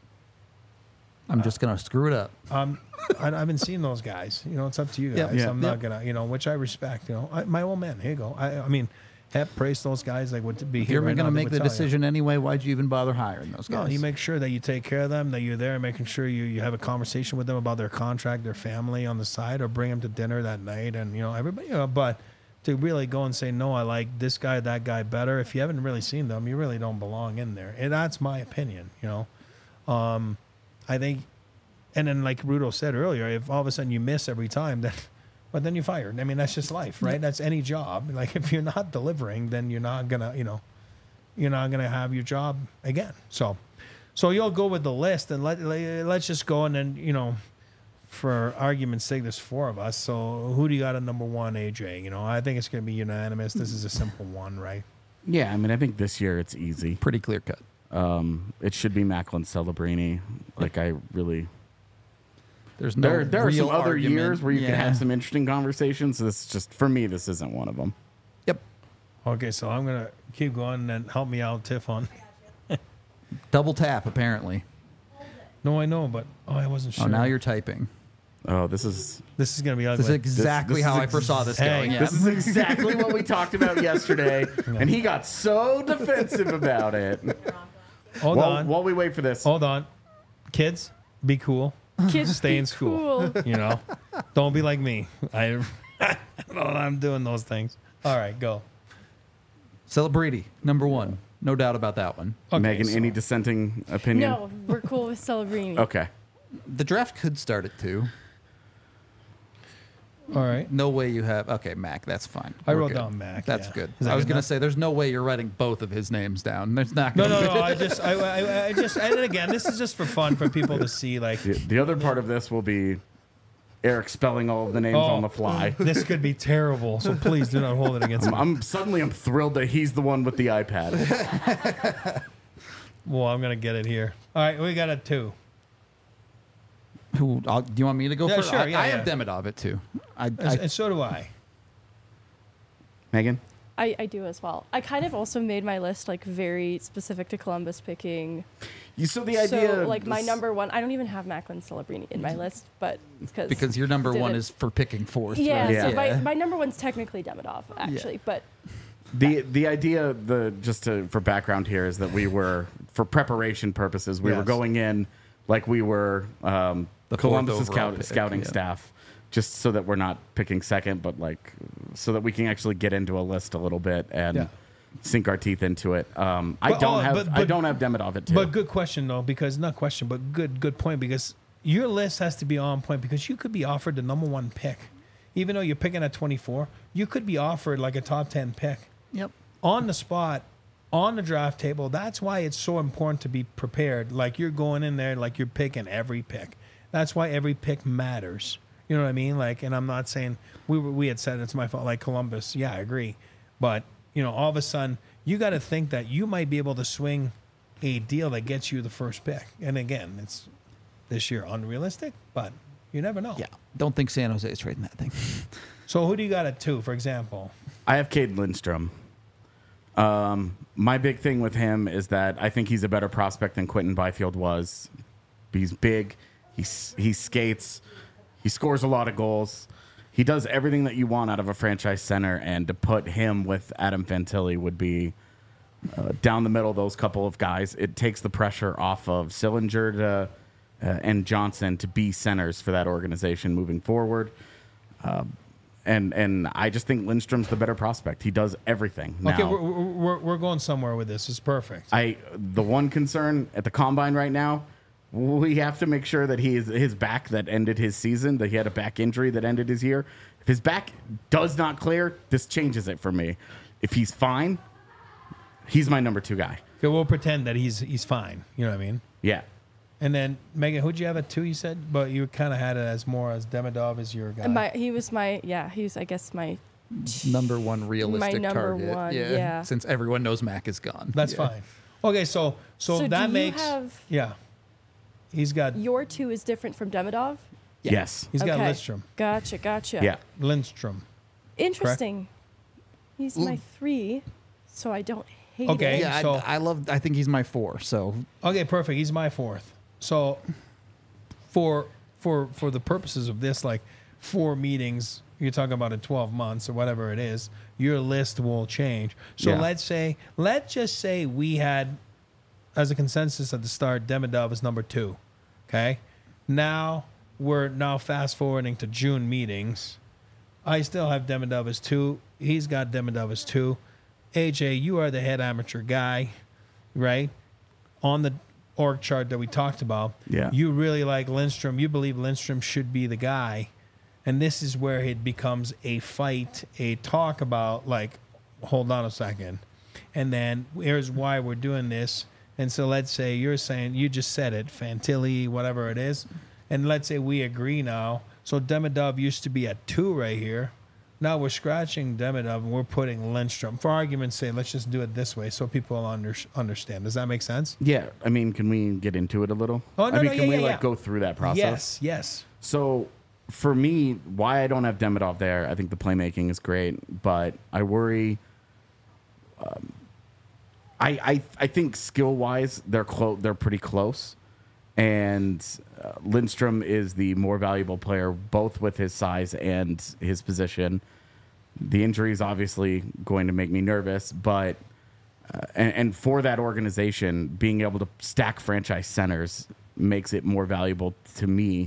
I'm just going to screw it up. Um, I, I haven't seen those guys. You know, it's up to you guys. Yep. Yeah. I'm not Yep. gonna, you know, which I respect. You know, I, my old man. Here you go. I, I mean, Hep, praise those guys. Like, would be If here you're right going now, to they make would the tell you. decision anyway, why'd you even bother hiring those No, guys? you make sure that you take care of them, that you're there, making sure you, you have a conversation with them about their contract, their family on the side, or bring them to dinner that night, and you know everybody. You know, but to really go and say no, I like this guy, that guy better. If you haven't really seen them, you really don't belong in there, and that's my opinion. You know, um, I think. And then, like Rudo said earlier, if all of a sudden you miss every time, then, but then you're fired. I mean, that's just life, right? That's any job. Like, if you're not delivering, then you're not gonna, you know, you're not gonna have your job again. So, so you'll go with the list, and let, let let's just go, and then, you know, for argument's sake, there's four of us. So, who do you got at number one, A J? You know, I think it's gonna be unanimous. This is a simple one, right? Yeah, I mean, I think this year it's easy. Pretty clear cut. Um, it should be Macklin Celebrini. Like, I really. There's no There, there are some real other argument. years where you Yeah. can have some interesting conversations. This is just, for me, this isn't one of them. Yep. Okay, so I'm gonna keep going and help me out, Tiff, on. Double tap, apparently. No, I know, but oh, I wasn't sure. Oh, now you're typing. Oh, this is This is gonna be ugly. This is exactly this how is I first saw this Hey, going. Yeah. this is exactly what we talked about yesterday, and he got so defensive about it. Hold while, on. while we wait for this, Hold on. Kids, be cool. Kids Stay be in school. cool. You know? Don't be like me. I, I don't know I'm doing those things. All right, go. Celebrity, number one. No doubt about that one. Okay, Megan, so- any dissenting opinion? No, we're cool with Celebrini. Okay. The draft could start at two. All right. No way you have. Okay, Mac, that's fine. I We're wrote good. down Mac, That's yeah. good. Is that I was good going to enough? say, there's no way you're writing both of his names down. There's not No, going to no, no. I just, I, I, I just, and again, this is just for fun for people to see. Like, The, the other part of this will be Eric spelling all of the names Oh. on the fly. this could be terrible. So please do not hold it against I'm, me. I'm suddenly I'm thrilled that he's the one with the iPad. Well, I'm gonna get it here. All right, we got a two. Who, I'll, do you want me to go Yeah, first? sure, I, yeah, I yeah. have Demidov at two. I, And, I, and so do I. Megan? I, I do as well. I kind of also made my list like very specific to Columbus picking. You so the idea So like my this- number one, I don't even have Macklin Celebrini in my list, but it's because because your number did one it. is for picking fourth. yeah. right? Yeah. So my, my number one's technically Demidov actually, but The the idea the just to for background here is that we were for preparation purposes we were Yes. going in like we were um, The fourth Columbus's overall scout, pick, scouting yeah. staff just so that we're not picking second, but like so that we can actually get into a list a little bit and Yeah. sink our teeth into it. Um, I But, don't oh, have but- I but- don't have Demidov at two. But good question though, because not question, but good good point because your list has to be on point because you could be offered the number one pick, even though you're picking at twenty-four. You could be offered like a top ten pick Yep. on the spot, on the draft table. That's why it's so important to be prepared. Like you're going in there, like you're picking every pick. That's why every pick matters. You know what I mean? Like, and I'm not saying we were, we had said it's my fault. Like Columbus, yeah, I agree, but you know, all of a sudden you got to think that you might be able to swing a deal that gets you the first pick. And again, it's this year unrealistic, but you never know. Yeah. Don't think San Jose is trading that thing. So who do you got at two, for example? I have Cade Lindstrom. Um, my big thing with him is that I think he's a better prospect than Quentin Byfield was. He's big. He's, he skates. He scores a lot of goals. He does everything that you want out of a franchise center, and to put him with Adam Fantilli would be uh, down the middle, those couple of guys. It takes the pressure off of Sillinger to, uh, and Johnson to be centers for that organization moving forward. Um, and and I just think Lindstrom's the better prospect. He does everything. Now, Okay, we're, we're, we're going somewhere with this. It's perfect. I the one concern at the combine right now, we have to make sure that he is his back that ended his season, that he had a back injury that ended his year. If his back does not clear, this changes it for me. If he's fine, he's my number two guy. Okay, we'll pretend that he's he's fine. You know what I mean? Yeah. And then Megan, who'd you have at two? You said, but you kind of had it as more as Demidov as your guy. My, he was my, yeah, he was, I guess, my, Number one realistic number target. one, yeah. Since everyone knows Mac is gone. That's Yeah. fine. Okay, so so, So that do you makes have- yeah. He's got your two is different from Demidov? Yeah. Yes. he's got Okay. Lindstrom. Gotcha, gotcha. Yeah. Lindstrom. Interesting. He's my three, so I don't hate Okay. it. Yeah, So- I, I love. I think he's my four. So Okay, perfect. He's my fourth. So for for for the purposes of this, like four meetings, you're talking about in twelve months or whatever it is, your list will change. So Yeah. let's say, let's just say we had as a consensus at the start, Demidov is number two. Okay. Now we're now fast forwarding to June meetings. I still have Demidov as two. He's got Demidov as two. A J, you are the head amateur guy, right? On the org chart that we talked about, Yeah. you really like Lindstrom. You believe Lindstrom should be the guy. And this is where it becomes a fight, a talk about, like, hold on a second. And then here's why we're doing this. And so let's say you're saying, you just said it, Fantilli, whatever it is. And let's say we agree now. So Demidov used to be at two right here. Now we're scratching Demidov and we're putting Lindstrom. For argument's sake, let's just do it this way so people under, understand. Does that make sense? Yeah. I mean, can we get into it a little? Oh, no, I mean, no, can yeah, we yeah, like yeah. go through that process? Yes, yes. So for me, why I don't have Demidov there, I think the playmaking is great, but I worry. Um, I I I think skill wise, they're close. They're pretty close, and uh, Lindstrom is the more valuable player, both with his size and his position. The injury is obviously going to make me nervous, but uh, and, and for that organization, being able to stack franchise centers makes it more valuable to me.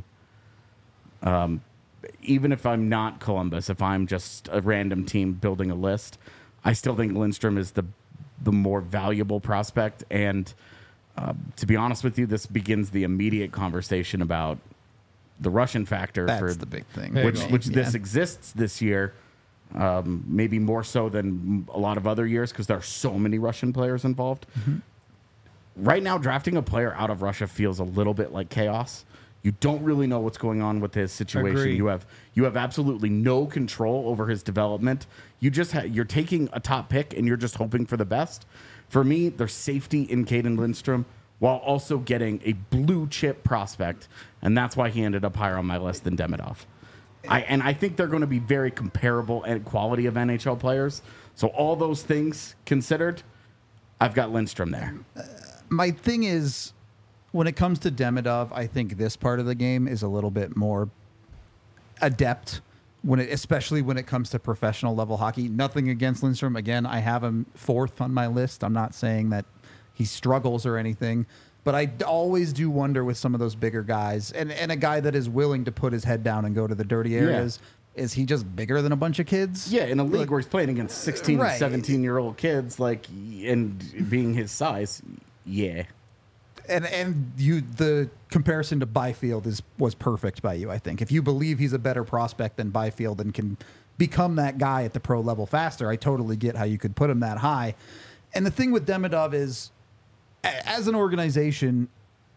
Um, even if I'm not Columbus, if I'm just a random team building a list, I still think Lindstrom is the the more valuable prospect. And uh, to be honest with you, this begins the immediate conversation about the Russian factor that's for the big thing. There you which go. which this Yeah. exists this year, um, maybe more so than a lot of other years because there are so many Russian players involved. Mm-hmm. Right now, drafting a player out of Russia feels a little bit like chaos. You don't really know what's going on with his situation. Agree. You have you have absolutely no control over his development. You just ha- you're taking a top pick and you're just hoping for the best. For me, there's safety in Caden Lindstrom while also getting a blue chip prospect, and that's why he ended up higher on my list than Demidov. I and I think they're going to be very comparable at quality of N H L players. So all those things considered, I've got Lindstrom there. My thing is, when it comes to Demidov, I think this part of the game is a little bit more adept when it, especially when it comes to professional level hockey. Nothing against Lindstrom. Again, I have him fourth on my list. I'm not saying that he struggles or anything. But I d- always do wonder with some of those bigger guys, and, and a guy that is willing to put his head down and go to the dirty areas, is he just bigger than a bunch of kids? Yeah, in a league where he's playing against sixteen Right. and seventeen year old kids, like, and being his size, yeah. And and you the comparison to Byfield is was perfect by you, I think. If you believe he's a better prospect than Byfield and can become that guy at the pro level faster, I totally get how you could put him that high. And the thing with Demidov is, a- as an organization,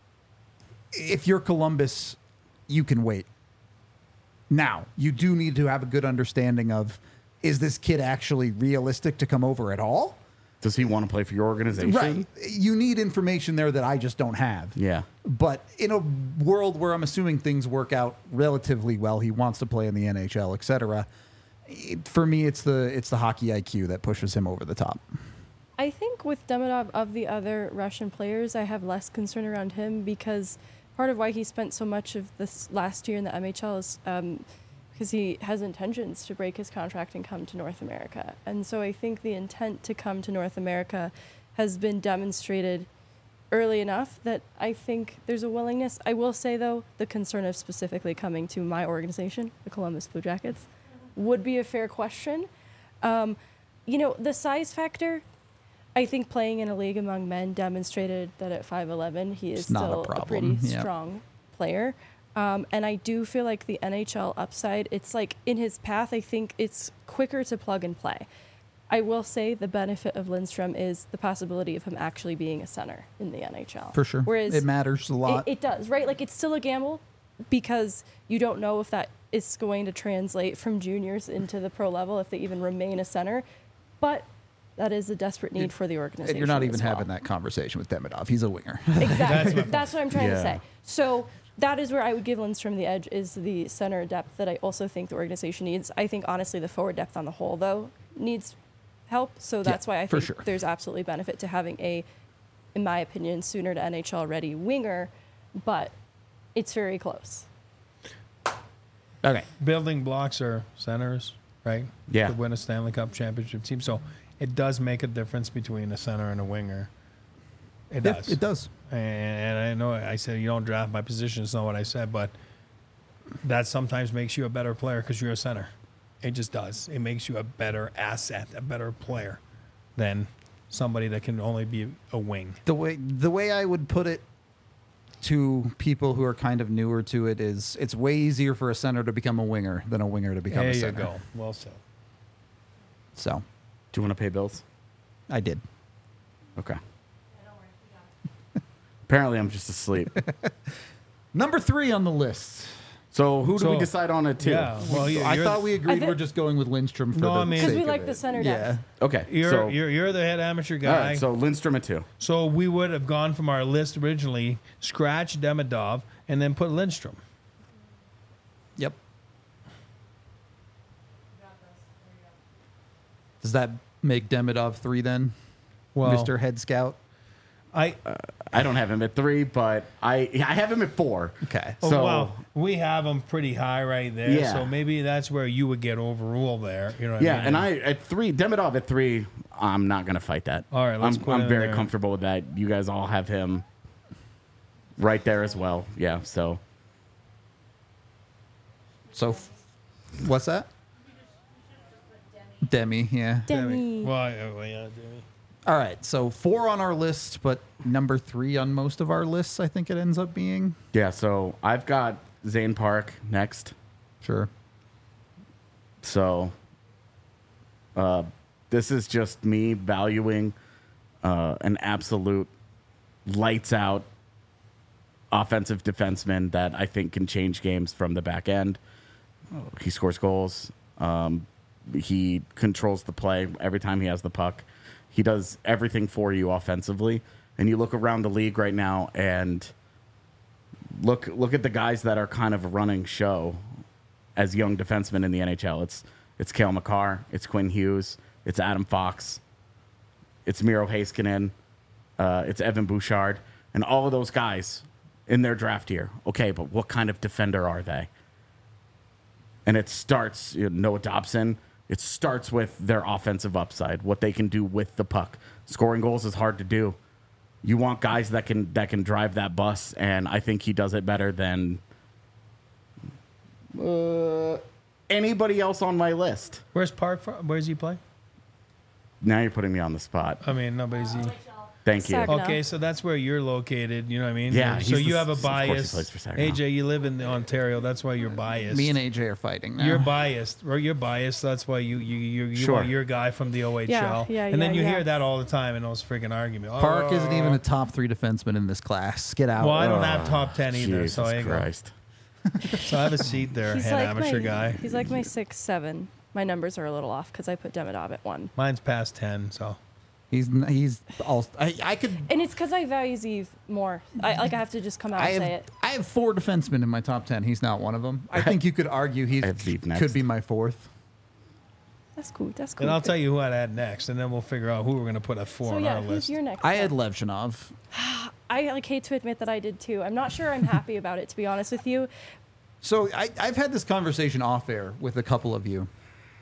if you're Columbus, you can wait. Now, you do need to have a good understanding of, is this kid actually realistic to come over at all? Does he want to play for your organization? Right. You need information there that I just don't have. Yeah. But in a world where I'm assuming things work out relatively well, he wants to play in the N H L, et cetera. It, for me, it's the it's the hockey I Q that pushes him over the top. I think with Demidov, of the other Russian players, I have less concern around him because part of why he spent so much of this last year in the M H L is um, because he has intentions to break his contract and come to North America. And so I think the intent to come to North America has been demonstrated early enough that I think there's a willingness. I will say, though, the concern of specifically coming to my organization, the Columbus Blue Jackets, would be a fair question. Um, you know, the size factor, I think playing in a league among men demonstrated that at five eleven, he is It's not a still a, problem, pretty yeah. strong player. Um, and I do feel like the N H L upside, it's like in his path, I think it's quicker to plug and play. I will say the benefit of Lindstrom is the possibility of him actually being a center in the N H L. For sure. Whereas It matters a lot. It, it does, right? Like it's still a gamble because you don't know if that is going to translate from juniors into the pro level, if they even remain a center. But that is a desperate need for the organization. And you're not even as well. having that conversation with Demidov. He's a winger. Exactly. That's what I'm trying to Yeah. say. So that is where I would give Lindstrom the edge, is the center depth that I also think the organization needs. I think, honestly, the forward depth on the whole, though, needs help. So that's why I for think sure. there's absolutely benefit to having a, in my opinion, sooner to N H L-ready winger, but it's very close. Okay. Building blocks are centers, right? Yeah. To win a Stanley Cup championship team. So it does make a difference between a center and a winger. It Yeah, does. it does. And, and I know I said you don't draft by position. It's not what I said, but that sometimes makes you a better player because you're a center. It just does. It makes you a better asset, a better player than somebody that can only be a wing. The way the way I would put it to people who are kind of newer to it is, it's way easier for a center to become a winger than a winger to become There a you center. go. Well said. So Do you want to pay bills? I did. Okay. Apparently, I'm just asleep. Number three on the list. So who do we So- decide on it to? Yeah. Well, you, I you're, thought we agreed thi- we're just going with Lindstrom for No, the I mean- sake Because we of like it. the center Yeah. depth. Okay. you're, so, you're you're the head amateur all guy. right. So Lindstrom at two. So we would have gone from our list originally, scratch Demidov, and then put Lindstrom. Yep. Does that make Demidov three then, Well, Mister Head Scout? I I don't have him at three, but I I have him at four. Okay. oh, So wow, we have him pretty high right there. Yeah. So maybe that's where you would get overruled there. You know what yeah, I mean? and I at three, Demidov at three. I'm not gonna fight that. All right, let's I'm, put I'm him very there. comfortable with that. You guys all have him right there as well. Yeah. So So, f- what's that? Demi, yeah. Demi. Well, yeah, well, yeah, Demi. All right, so four on our list, but number three on most of our lists, I think it ends up being. yeah. So I've got Zane Park next. Sure. So uh, this is just me valuing uh, an absolute lights out offensive defenseman that I think can change games from the back end. He scores goals. Um, he controls the play every time he has the puck. He does everything for you offensively. And you look around the league right now and look look at the guys that are kind of running show as young defensemen in the N H L. It's it's Cale Makar, it's Quinn Hughes, it's Adam Fox, it's Miro Heiskanen, uh, it's Evan Bouchard, and all of those guys in their draft year. Okay, but what kind of defender are they? And it starts, you know, Noah Dobson, it starts with their offensive upside, what they can do with the puck. Scoring goals is hard to do. You want guys that can that can drive that bus, and I think he does it better than uh, anybody else on my list. Where's Park from? Where's he play? Now you're putting me on the spot. I mean, nobody's. He, Thank you. Saginaw. okay, so that's where you're located. You know what I mean? Yeah, So he's you the- have a of course he bias. plays for Saginaw. A J, you live in Ontario. That's why you're biased. Me and A J are fighting now. You're biased, or you're biased. That's why you you you, you Sure. want your guy from the O H L. Yeah, yeah, and then yeah, you yeah. hear that all the time in those freaking arguments. Park Oh, isn't even a top three defenseman in this class. Get out. Well, I don't have top ten either, Jesus so I go. Christ. So I have a seat there, He's head like amateur my, guy. He's like my six seven. My numbers are a little off because I put Demidov at one. Mine's past ten, so He's n- he's all. I, I could. And it's because I value Zeev more. I like I have to just come out I and have, say it. I have four defensemen in my top ten. He's not one of them. I think you could argue he I have Zeev next. could be my fourth. That's cool. That's cool. and I'll tell you who I'd add next, and then we'll figure out who we're gonna put at four So on yeah, our who's list. your next? I had one? Levshinov. I like hate to admit that I did too. I'm not sure I'm happy about it, to be honest with you. So I, I've had this conversation off air with a couple of you.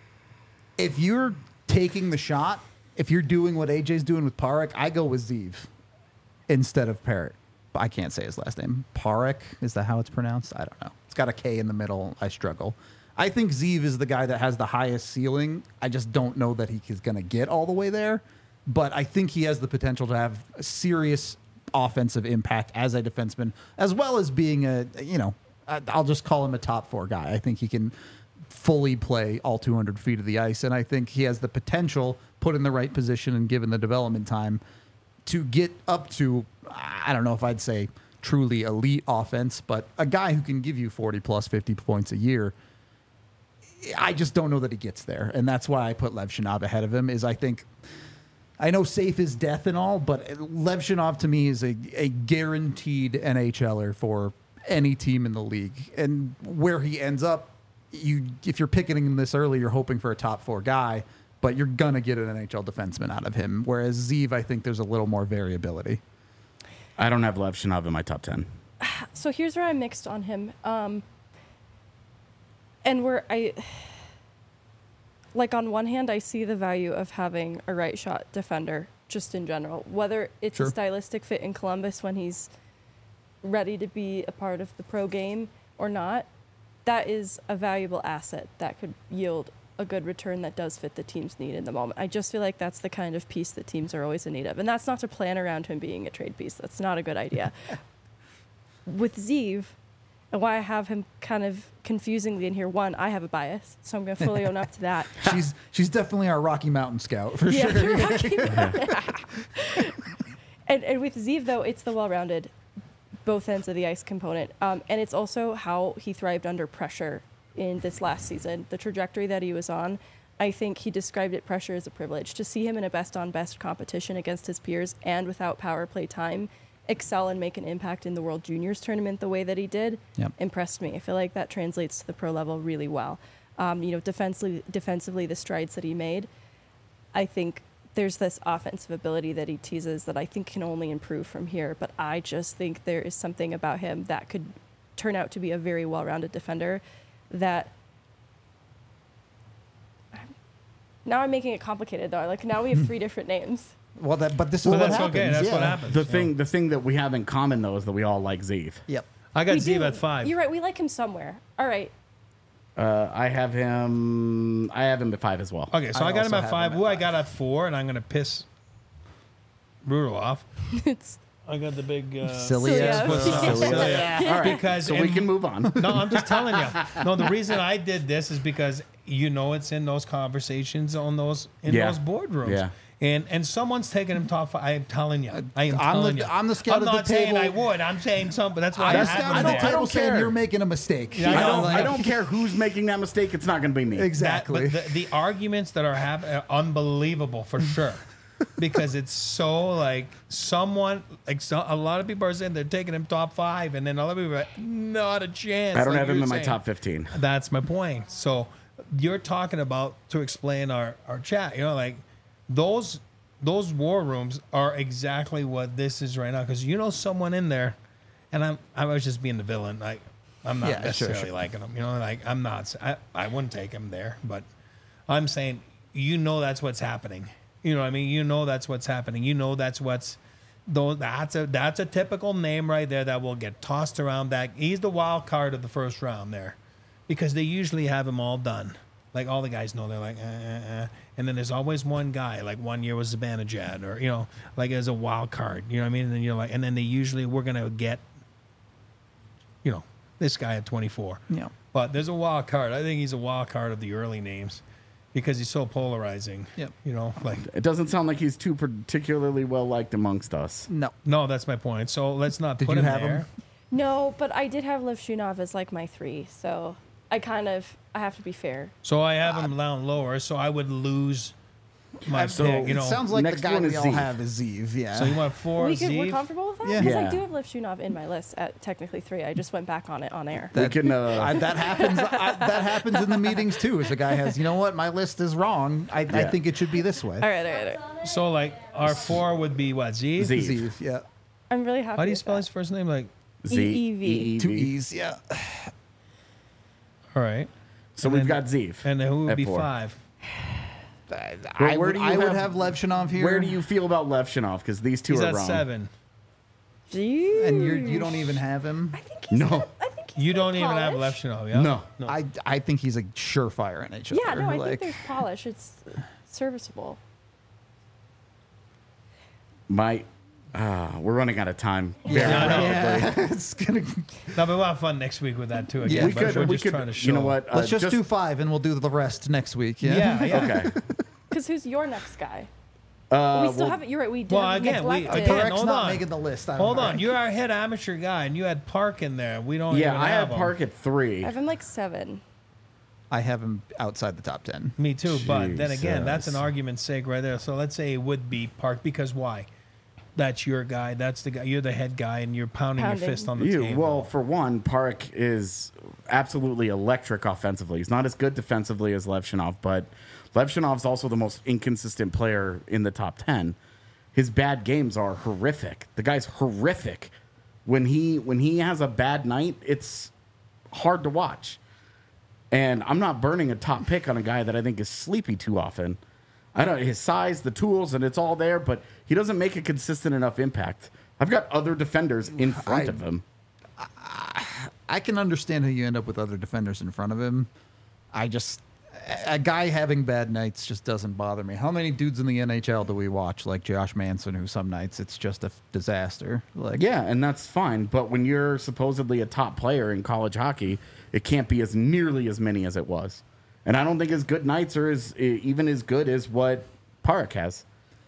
If you're taking the shot, if you're doing what A J's doing with Parek, I go with Zeev instead of Parrot. I can't say his last name. Parek, is that how it's pronounced? I don't know. It's got a K in the middle. I struggle. I think Zeev is the guy that has the highest ceiling. I just don't know that he is going to get all the way there. But I think he has the potential to have a serious offensive impact as a defenseman, as well as being a, you know, I- I'll just call him a top four guy. I think he can fully play all two hundred feet of the ice. And I think he has the potential, put in the right position and given the development time, to get up to, I don't know if I'd say truly elite offense, but a guy who can give you forty plus fifty points a year. I just don't know that he gets there. And that's why I put Levshinov ahead of him. Is I think, I know safe is death and all, but Levshinov to me is a, a guaranteed NHLer for any team in the league. And where he ends up, you if you're picking him this early, you're hoping for a top four guy, but you're going to get an N H L defenseman out of him. Whereas Zeev, I think there's a little more variability. I don't have Levshinov in my top ten. So here's where I'm mixed on him. Um, and where I, like on one hand, I see the value of having a right shot defender just in general, whether it's Sure. a stylistic fit in Columbus when he's ready to be a part of the pro game or not. That is a valuable asset that could yield a good return that does fit the team's need in the moment. I just feel like that's the kind of piece that teams are always in need of. And that's not to plan around him being a trade piece. That's not a good idea. With Zeev, and why I have him kind of confusingly in here, one, I have a bias, so I'm going to fully own up to that. She's she's definitely our Rocky Mountain scout for Yeah, sure. Rocky Mountain. and, and with Zeev, though, it's the well-rounded both ends of the ice component. Um, and it's also how he thrived under pressure in this last season. The trajectory that he was on, I think he described it pressure as a privilege. To see him in a best-on-best competition against his peers and without power play time excel and make an impact in the World Juniors tournament the way that he did Yep. impressed me. I feel like that translates to the pro level really well. Um, you know, defensively, defensively, the strides that he made, I think there's this offensive ability that he teases that I think can only improve from here. But I just think there is something about him that could turn out to be a very well-rounded defender that now I'm making it complicated though. Like now we have three different names. Well, that but this is Well, what that's happens. okay. That's yeah. what happens. The So, thing, the thing that we have in common though is that we all like Zeev. Yep. I got We Zeev do. at five. You're right. We like him somewhere. All right. Uh, I have him. I have him at five as well. Okay, so I I, got him also at have five. him at Who I five. got at four, and I'm going to piss Brutal off. It's I got the big uh, Silly So, ass. yeah. what's up? Silly. Silly. All right, Because so we in- can move on. No, I'm just telling you. No, the reason I did this is because you know it's in those conversations on those in Yeah. those boardrooms. Yeah. And and someone's taking him top five. I am telling you. I am I'm telling the- you. I'm the scout I'm at the not saying I table. would. I'm saying something. That's why I'm I the have scout him at the there. table don't saying care. you're making a mistake. Yeah, I I don't. know, I like- don't care who's making that mistake. It's not going to be me. Exactly. That, but the, the arguments that are happening are unbelievable for sure. Because it's so like someone like so, a lot of people are saying they're taking him top five, and then other people are like, not a chance. I don't like have him you're in my saying. top fifteen. That's my point. So you're talking about to explain our, our chat, you know, like those those war rooms are exactly what this is right now. Because you know someone in there, and I'm I was just being the villain. Like I'm not Yeah, sure, necessarily sure. liking him. You know, like I'm not. I, I wouldn't take him there, but I'm saying you know that's what's happening. You know what I mean? You know that's what's happening. You know that's what's Though that's a that's a typical name right there that will get tossed around. That he's the wild card of the first round there, because they usually have him all done. Like all the guys know, they're like, eh, eh, eh. And then there's always one guy. Like one year was Zibanejad, or you know, like as a wild card. You know what I mean? And then you're like, and then they usually we're gonna get, you know, this guy at twenty-four. Yeah. But there's a wild card. I think he's a wild card of the early names, because he's so polarizing. Yep. You know, like It doesn't sound like he's too particularly well liked amongst us. No. no, that's my point. So let's not Did put you him have there. him? No, but I did have Lev Shunov as like my three, so I kind of I have to be fair. So I have him down lower, so I would lose my So- pick. You It know, sounds like the next guy one we is all Zeev. have is Zeev. Yeah. so you want four we could, we're Zeev? comfortable with that? Yeah. Because Yeah. I do have Lev Shunov in my list at technically three. I just went back on it on air. we can. Uh, I, that happens. I, that happens in the meetings too. As a guy has, you know what, my list is wrong. I, I Yeah. think it should be this way. All right, all right, all right. So like our four would be what Zeev? Zeev. Zeev, yeah, I'm really happy. How do you with spell that. his first name? Like, Z- E E V. E E two V. E's, yeah. all right. So And we've then- got Zeev. And then who would at be four. five? I, Well, I where would, do you I would have- have Lev Shunov here. Where do you feel about Levshinov? Because these two He's are at wrong. seven. Jeez. And you're, you don't even have him. I think he's No. gonna- I think he's You don't gonna even have polish. Lefshinov, yeah? No. No. I, I think he's a surefire N H L. Yeah, no, I like, think there's polish. It's serviceable. My, uh, we're running out of time. Yeah, Very rapidly. yeah. It's gonna. No, but we'll have fun next week with that too. Again. Yeah, We but could. we're We just could. trying to show. You know what? Let's uh, just, do five, and we'll do the rest next week. Yeah. Yeah, yeah. Okay. Because who's your next guy? Uh, we still well, haven't. You're right. We did Well, have again, we- neglected. again, Parek's hold not on. making the list. I don't Hold know. on, you're our head amateur guy, and you had Park in there. We don't. Yeah, even I have had him. Park at three. I have him like seven. I have him outside the top ten. Me too, but then again, that's an Jesus. argument's sake right there. So let's say it would be Park, because why? That's your guy. That's the guy. You're the head guy, and you're pounding, Pounding. your fist on the You table. well, for one, Park is absolutely electric offensively. He's not as good defensively as Levshinov, but Levshinov's also the most inconsistent player in the top ten. His bad games are horrific. The guy's horrific. When he when he has a bad night, it's hard to watch. And I'm not burning a top pick on a guy that I think is sleepy too often. I don't his size, the tools, and it's all there, but he doesn't make a consistent enough impact. I've got other defenders in front I- of him. I can understand how you end up with other defenders in front of him. I just a guy having bad nights just doesn't bother me. How many dudes in the N H L do we watch like Josh Manson, who some nights it's just a f- disaster? Like, Yeah, and that's fine. But when you're supposedly a top player in college hockey, it can't be as nearly as many as it was. And I don't think his good nights are as even as good as what Park has.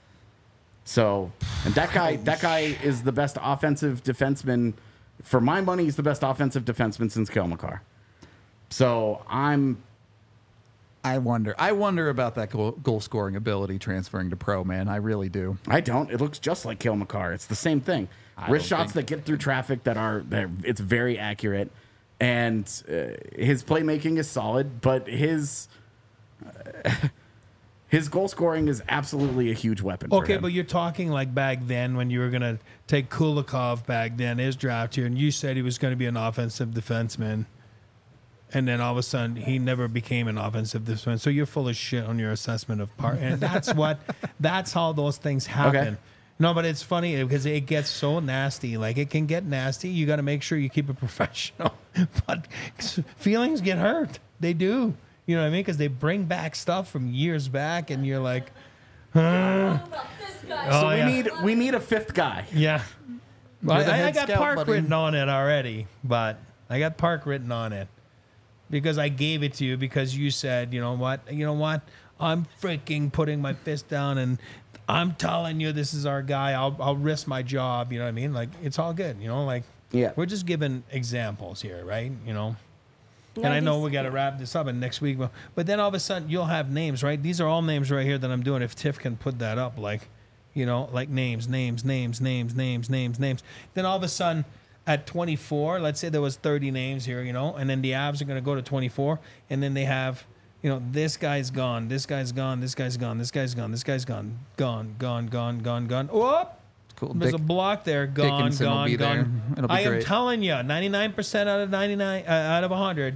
So, and that guy, that guy is the best offensive defenseman. For my money, he's the best offensive defenseman since Kale McCarr. So I'm I wonder. I wonder about that goal, goal scoring ability transferring to pro. Man, I really do. I don't. It looks just like Kale McCarr. It's the same thing. I Wrist don't shots think- that get through traffic that are that it's very accurate, and uh, his playmaking is solid. But his uh, his goal scoring is absolutely a huge weapon. for Okay, him. but you're talking like back then when you were going to take Kulikov back then, his draft year, and you said he was going to be an offensive defenseman. And then all of a sudden, he never became an offensive defenseman. So you're full of shit on your assessment of part. And that's what, that's how those things happen. Okay. No, but it's funny because it gets so nasty. Like, it can get nasty. You got to make sure you keep it professional. But feelings get hurt. They do. You know what I mean? Because they bring back stuff from years back, and you're like, huh? so Oh, we yeah. need we need a fifth guy. Yeah. Well, You're the I, I head got scout, Park buddy. written on it already, but I got Park written on it because I gave it to you because you said, you know what, you know what, I'm freaking putting my fist down and I'm telling you this is our guy. I'll I'll risk my job. You know what I mean? Like, it's all good. You know, like Yeah. we're just giving examples here, right? You know. No, And I know these- we got to wrap this up and next week, but, but then all of a sudden you'll have names, right? These are all names right here that I'm doing. If Tiff can put that up, like, you know, like names, names, names, names, names, names, names. Then all of a sudden at twenty-four, let's say there was thirty names here, you know, and then the Avs are going to go to twenty-four, and then they have, you know, this guy's gone, this guy's gone, this guy's gone, this guy's gone, this guy's gone, gone, gone, gone, gone, gone. Whoop! Cool. There's Dick- a block there. Gone, Dickinson will gone, be there. gone. It'll be I am great. telling you, ninety-nine percent out of ninety-nine, uh, out of one hundred,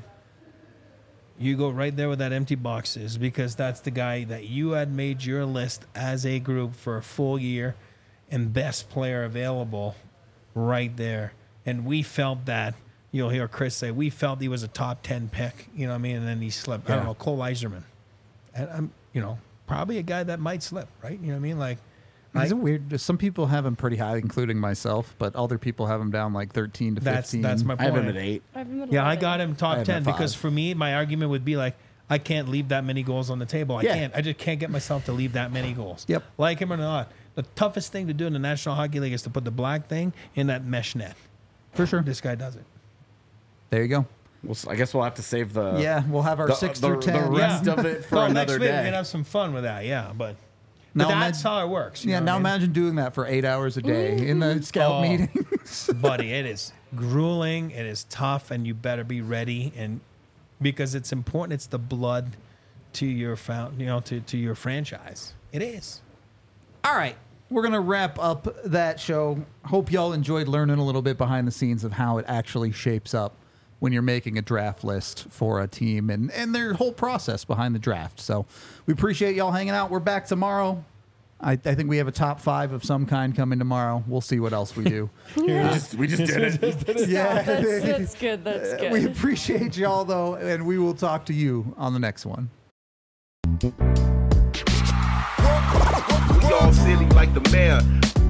you go right there with that empty boxes because that's the guy that you had made your list as a group for a full year. and best player available right there. And we felt that, you'll hear Chris say, we felt he was a top ten pick, you know what I mean? And then he slipped. I don't Yeah. know, Cole Iserman. And I'm, you know, probably a guy that might slip, right? You know what I mean? Like, Is I, it weird? Some people have him pretty high, including myself, but other people have him down like thirteen to that's fifteen. that's my I point. have him at eight. I have him at Yeah, I eleven. got him I top have ten him at because five. for me, my argument would be like, I can't leave that many goals on the table. I Yeah. can't. I just can't get myself to leave that many goals. Yep. Like him or not, the toughest thing to do in the National Hockey League is to put the black thing in that mesh net. For sure. This guy does it. There you go. We'll, s- I guess we'll have to save the Yeah, we'll have our the, six the, through ten. the rest Yeah. of it for No, another next week day. we're gonna have some fun with that. Yeah, but, Now but that's imagine- how it works. you Yeah, know now what I mean? imagine doing that for eight hours a day in the scout Oh. meetings. buddy, it is grueling. It is tough, and you better be ready. And because it's important, it's the blood to your found, you know, to, to your franchise. It is. All right, we're going to wrap up that show. Hope y'all enjoyed learning a little bit behind the scenes of how it actually shapes up when you're making a draft list for a team and, and their whole process behind the draft. So we appreciate y'all hanging out. We're back tomorrow. I, I think we have a top five of some kind coming tomorrow. We'll see what else we do. we just, we just did it. yeah. That's, that's good. That's good. We appreciate y'all, though, and we will talk to you on the next one. We all silly like the mayor.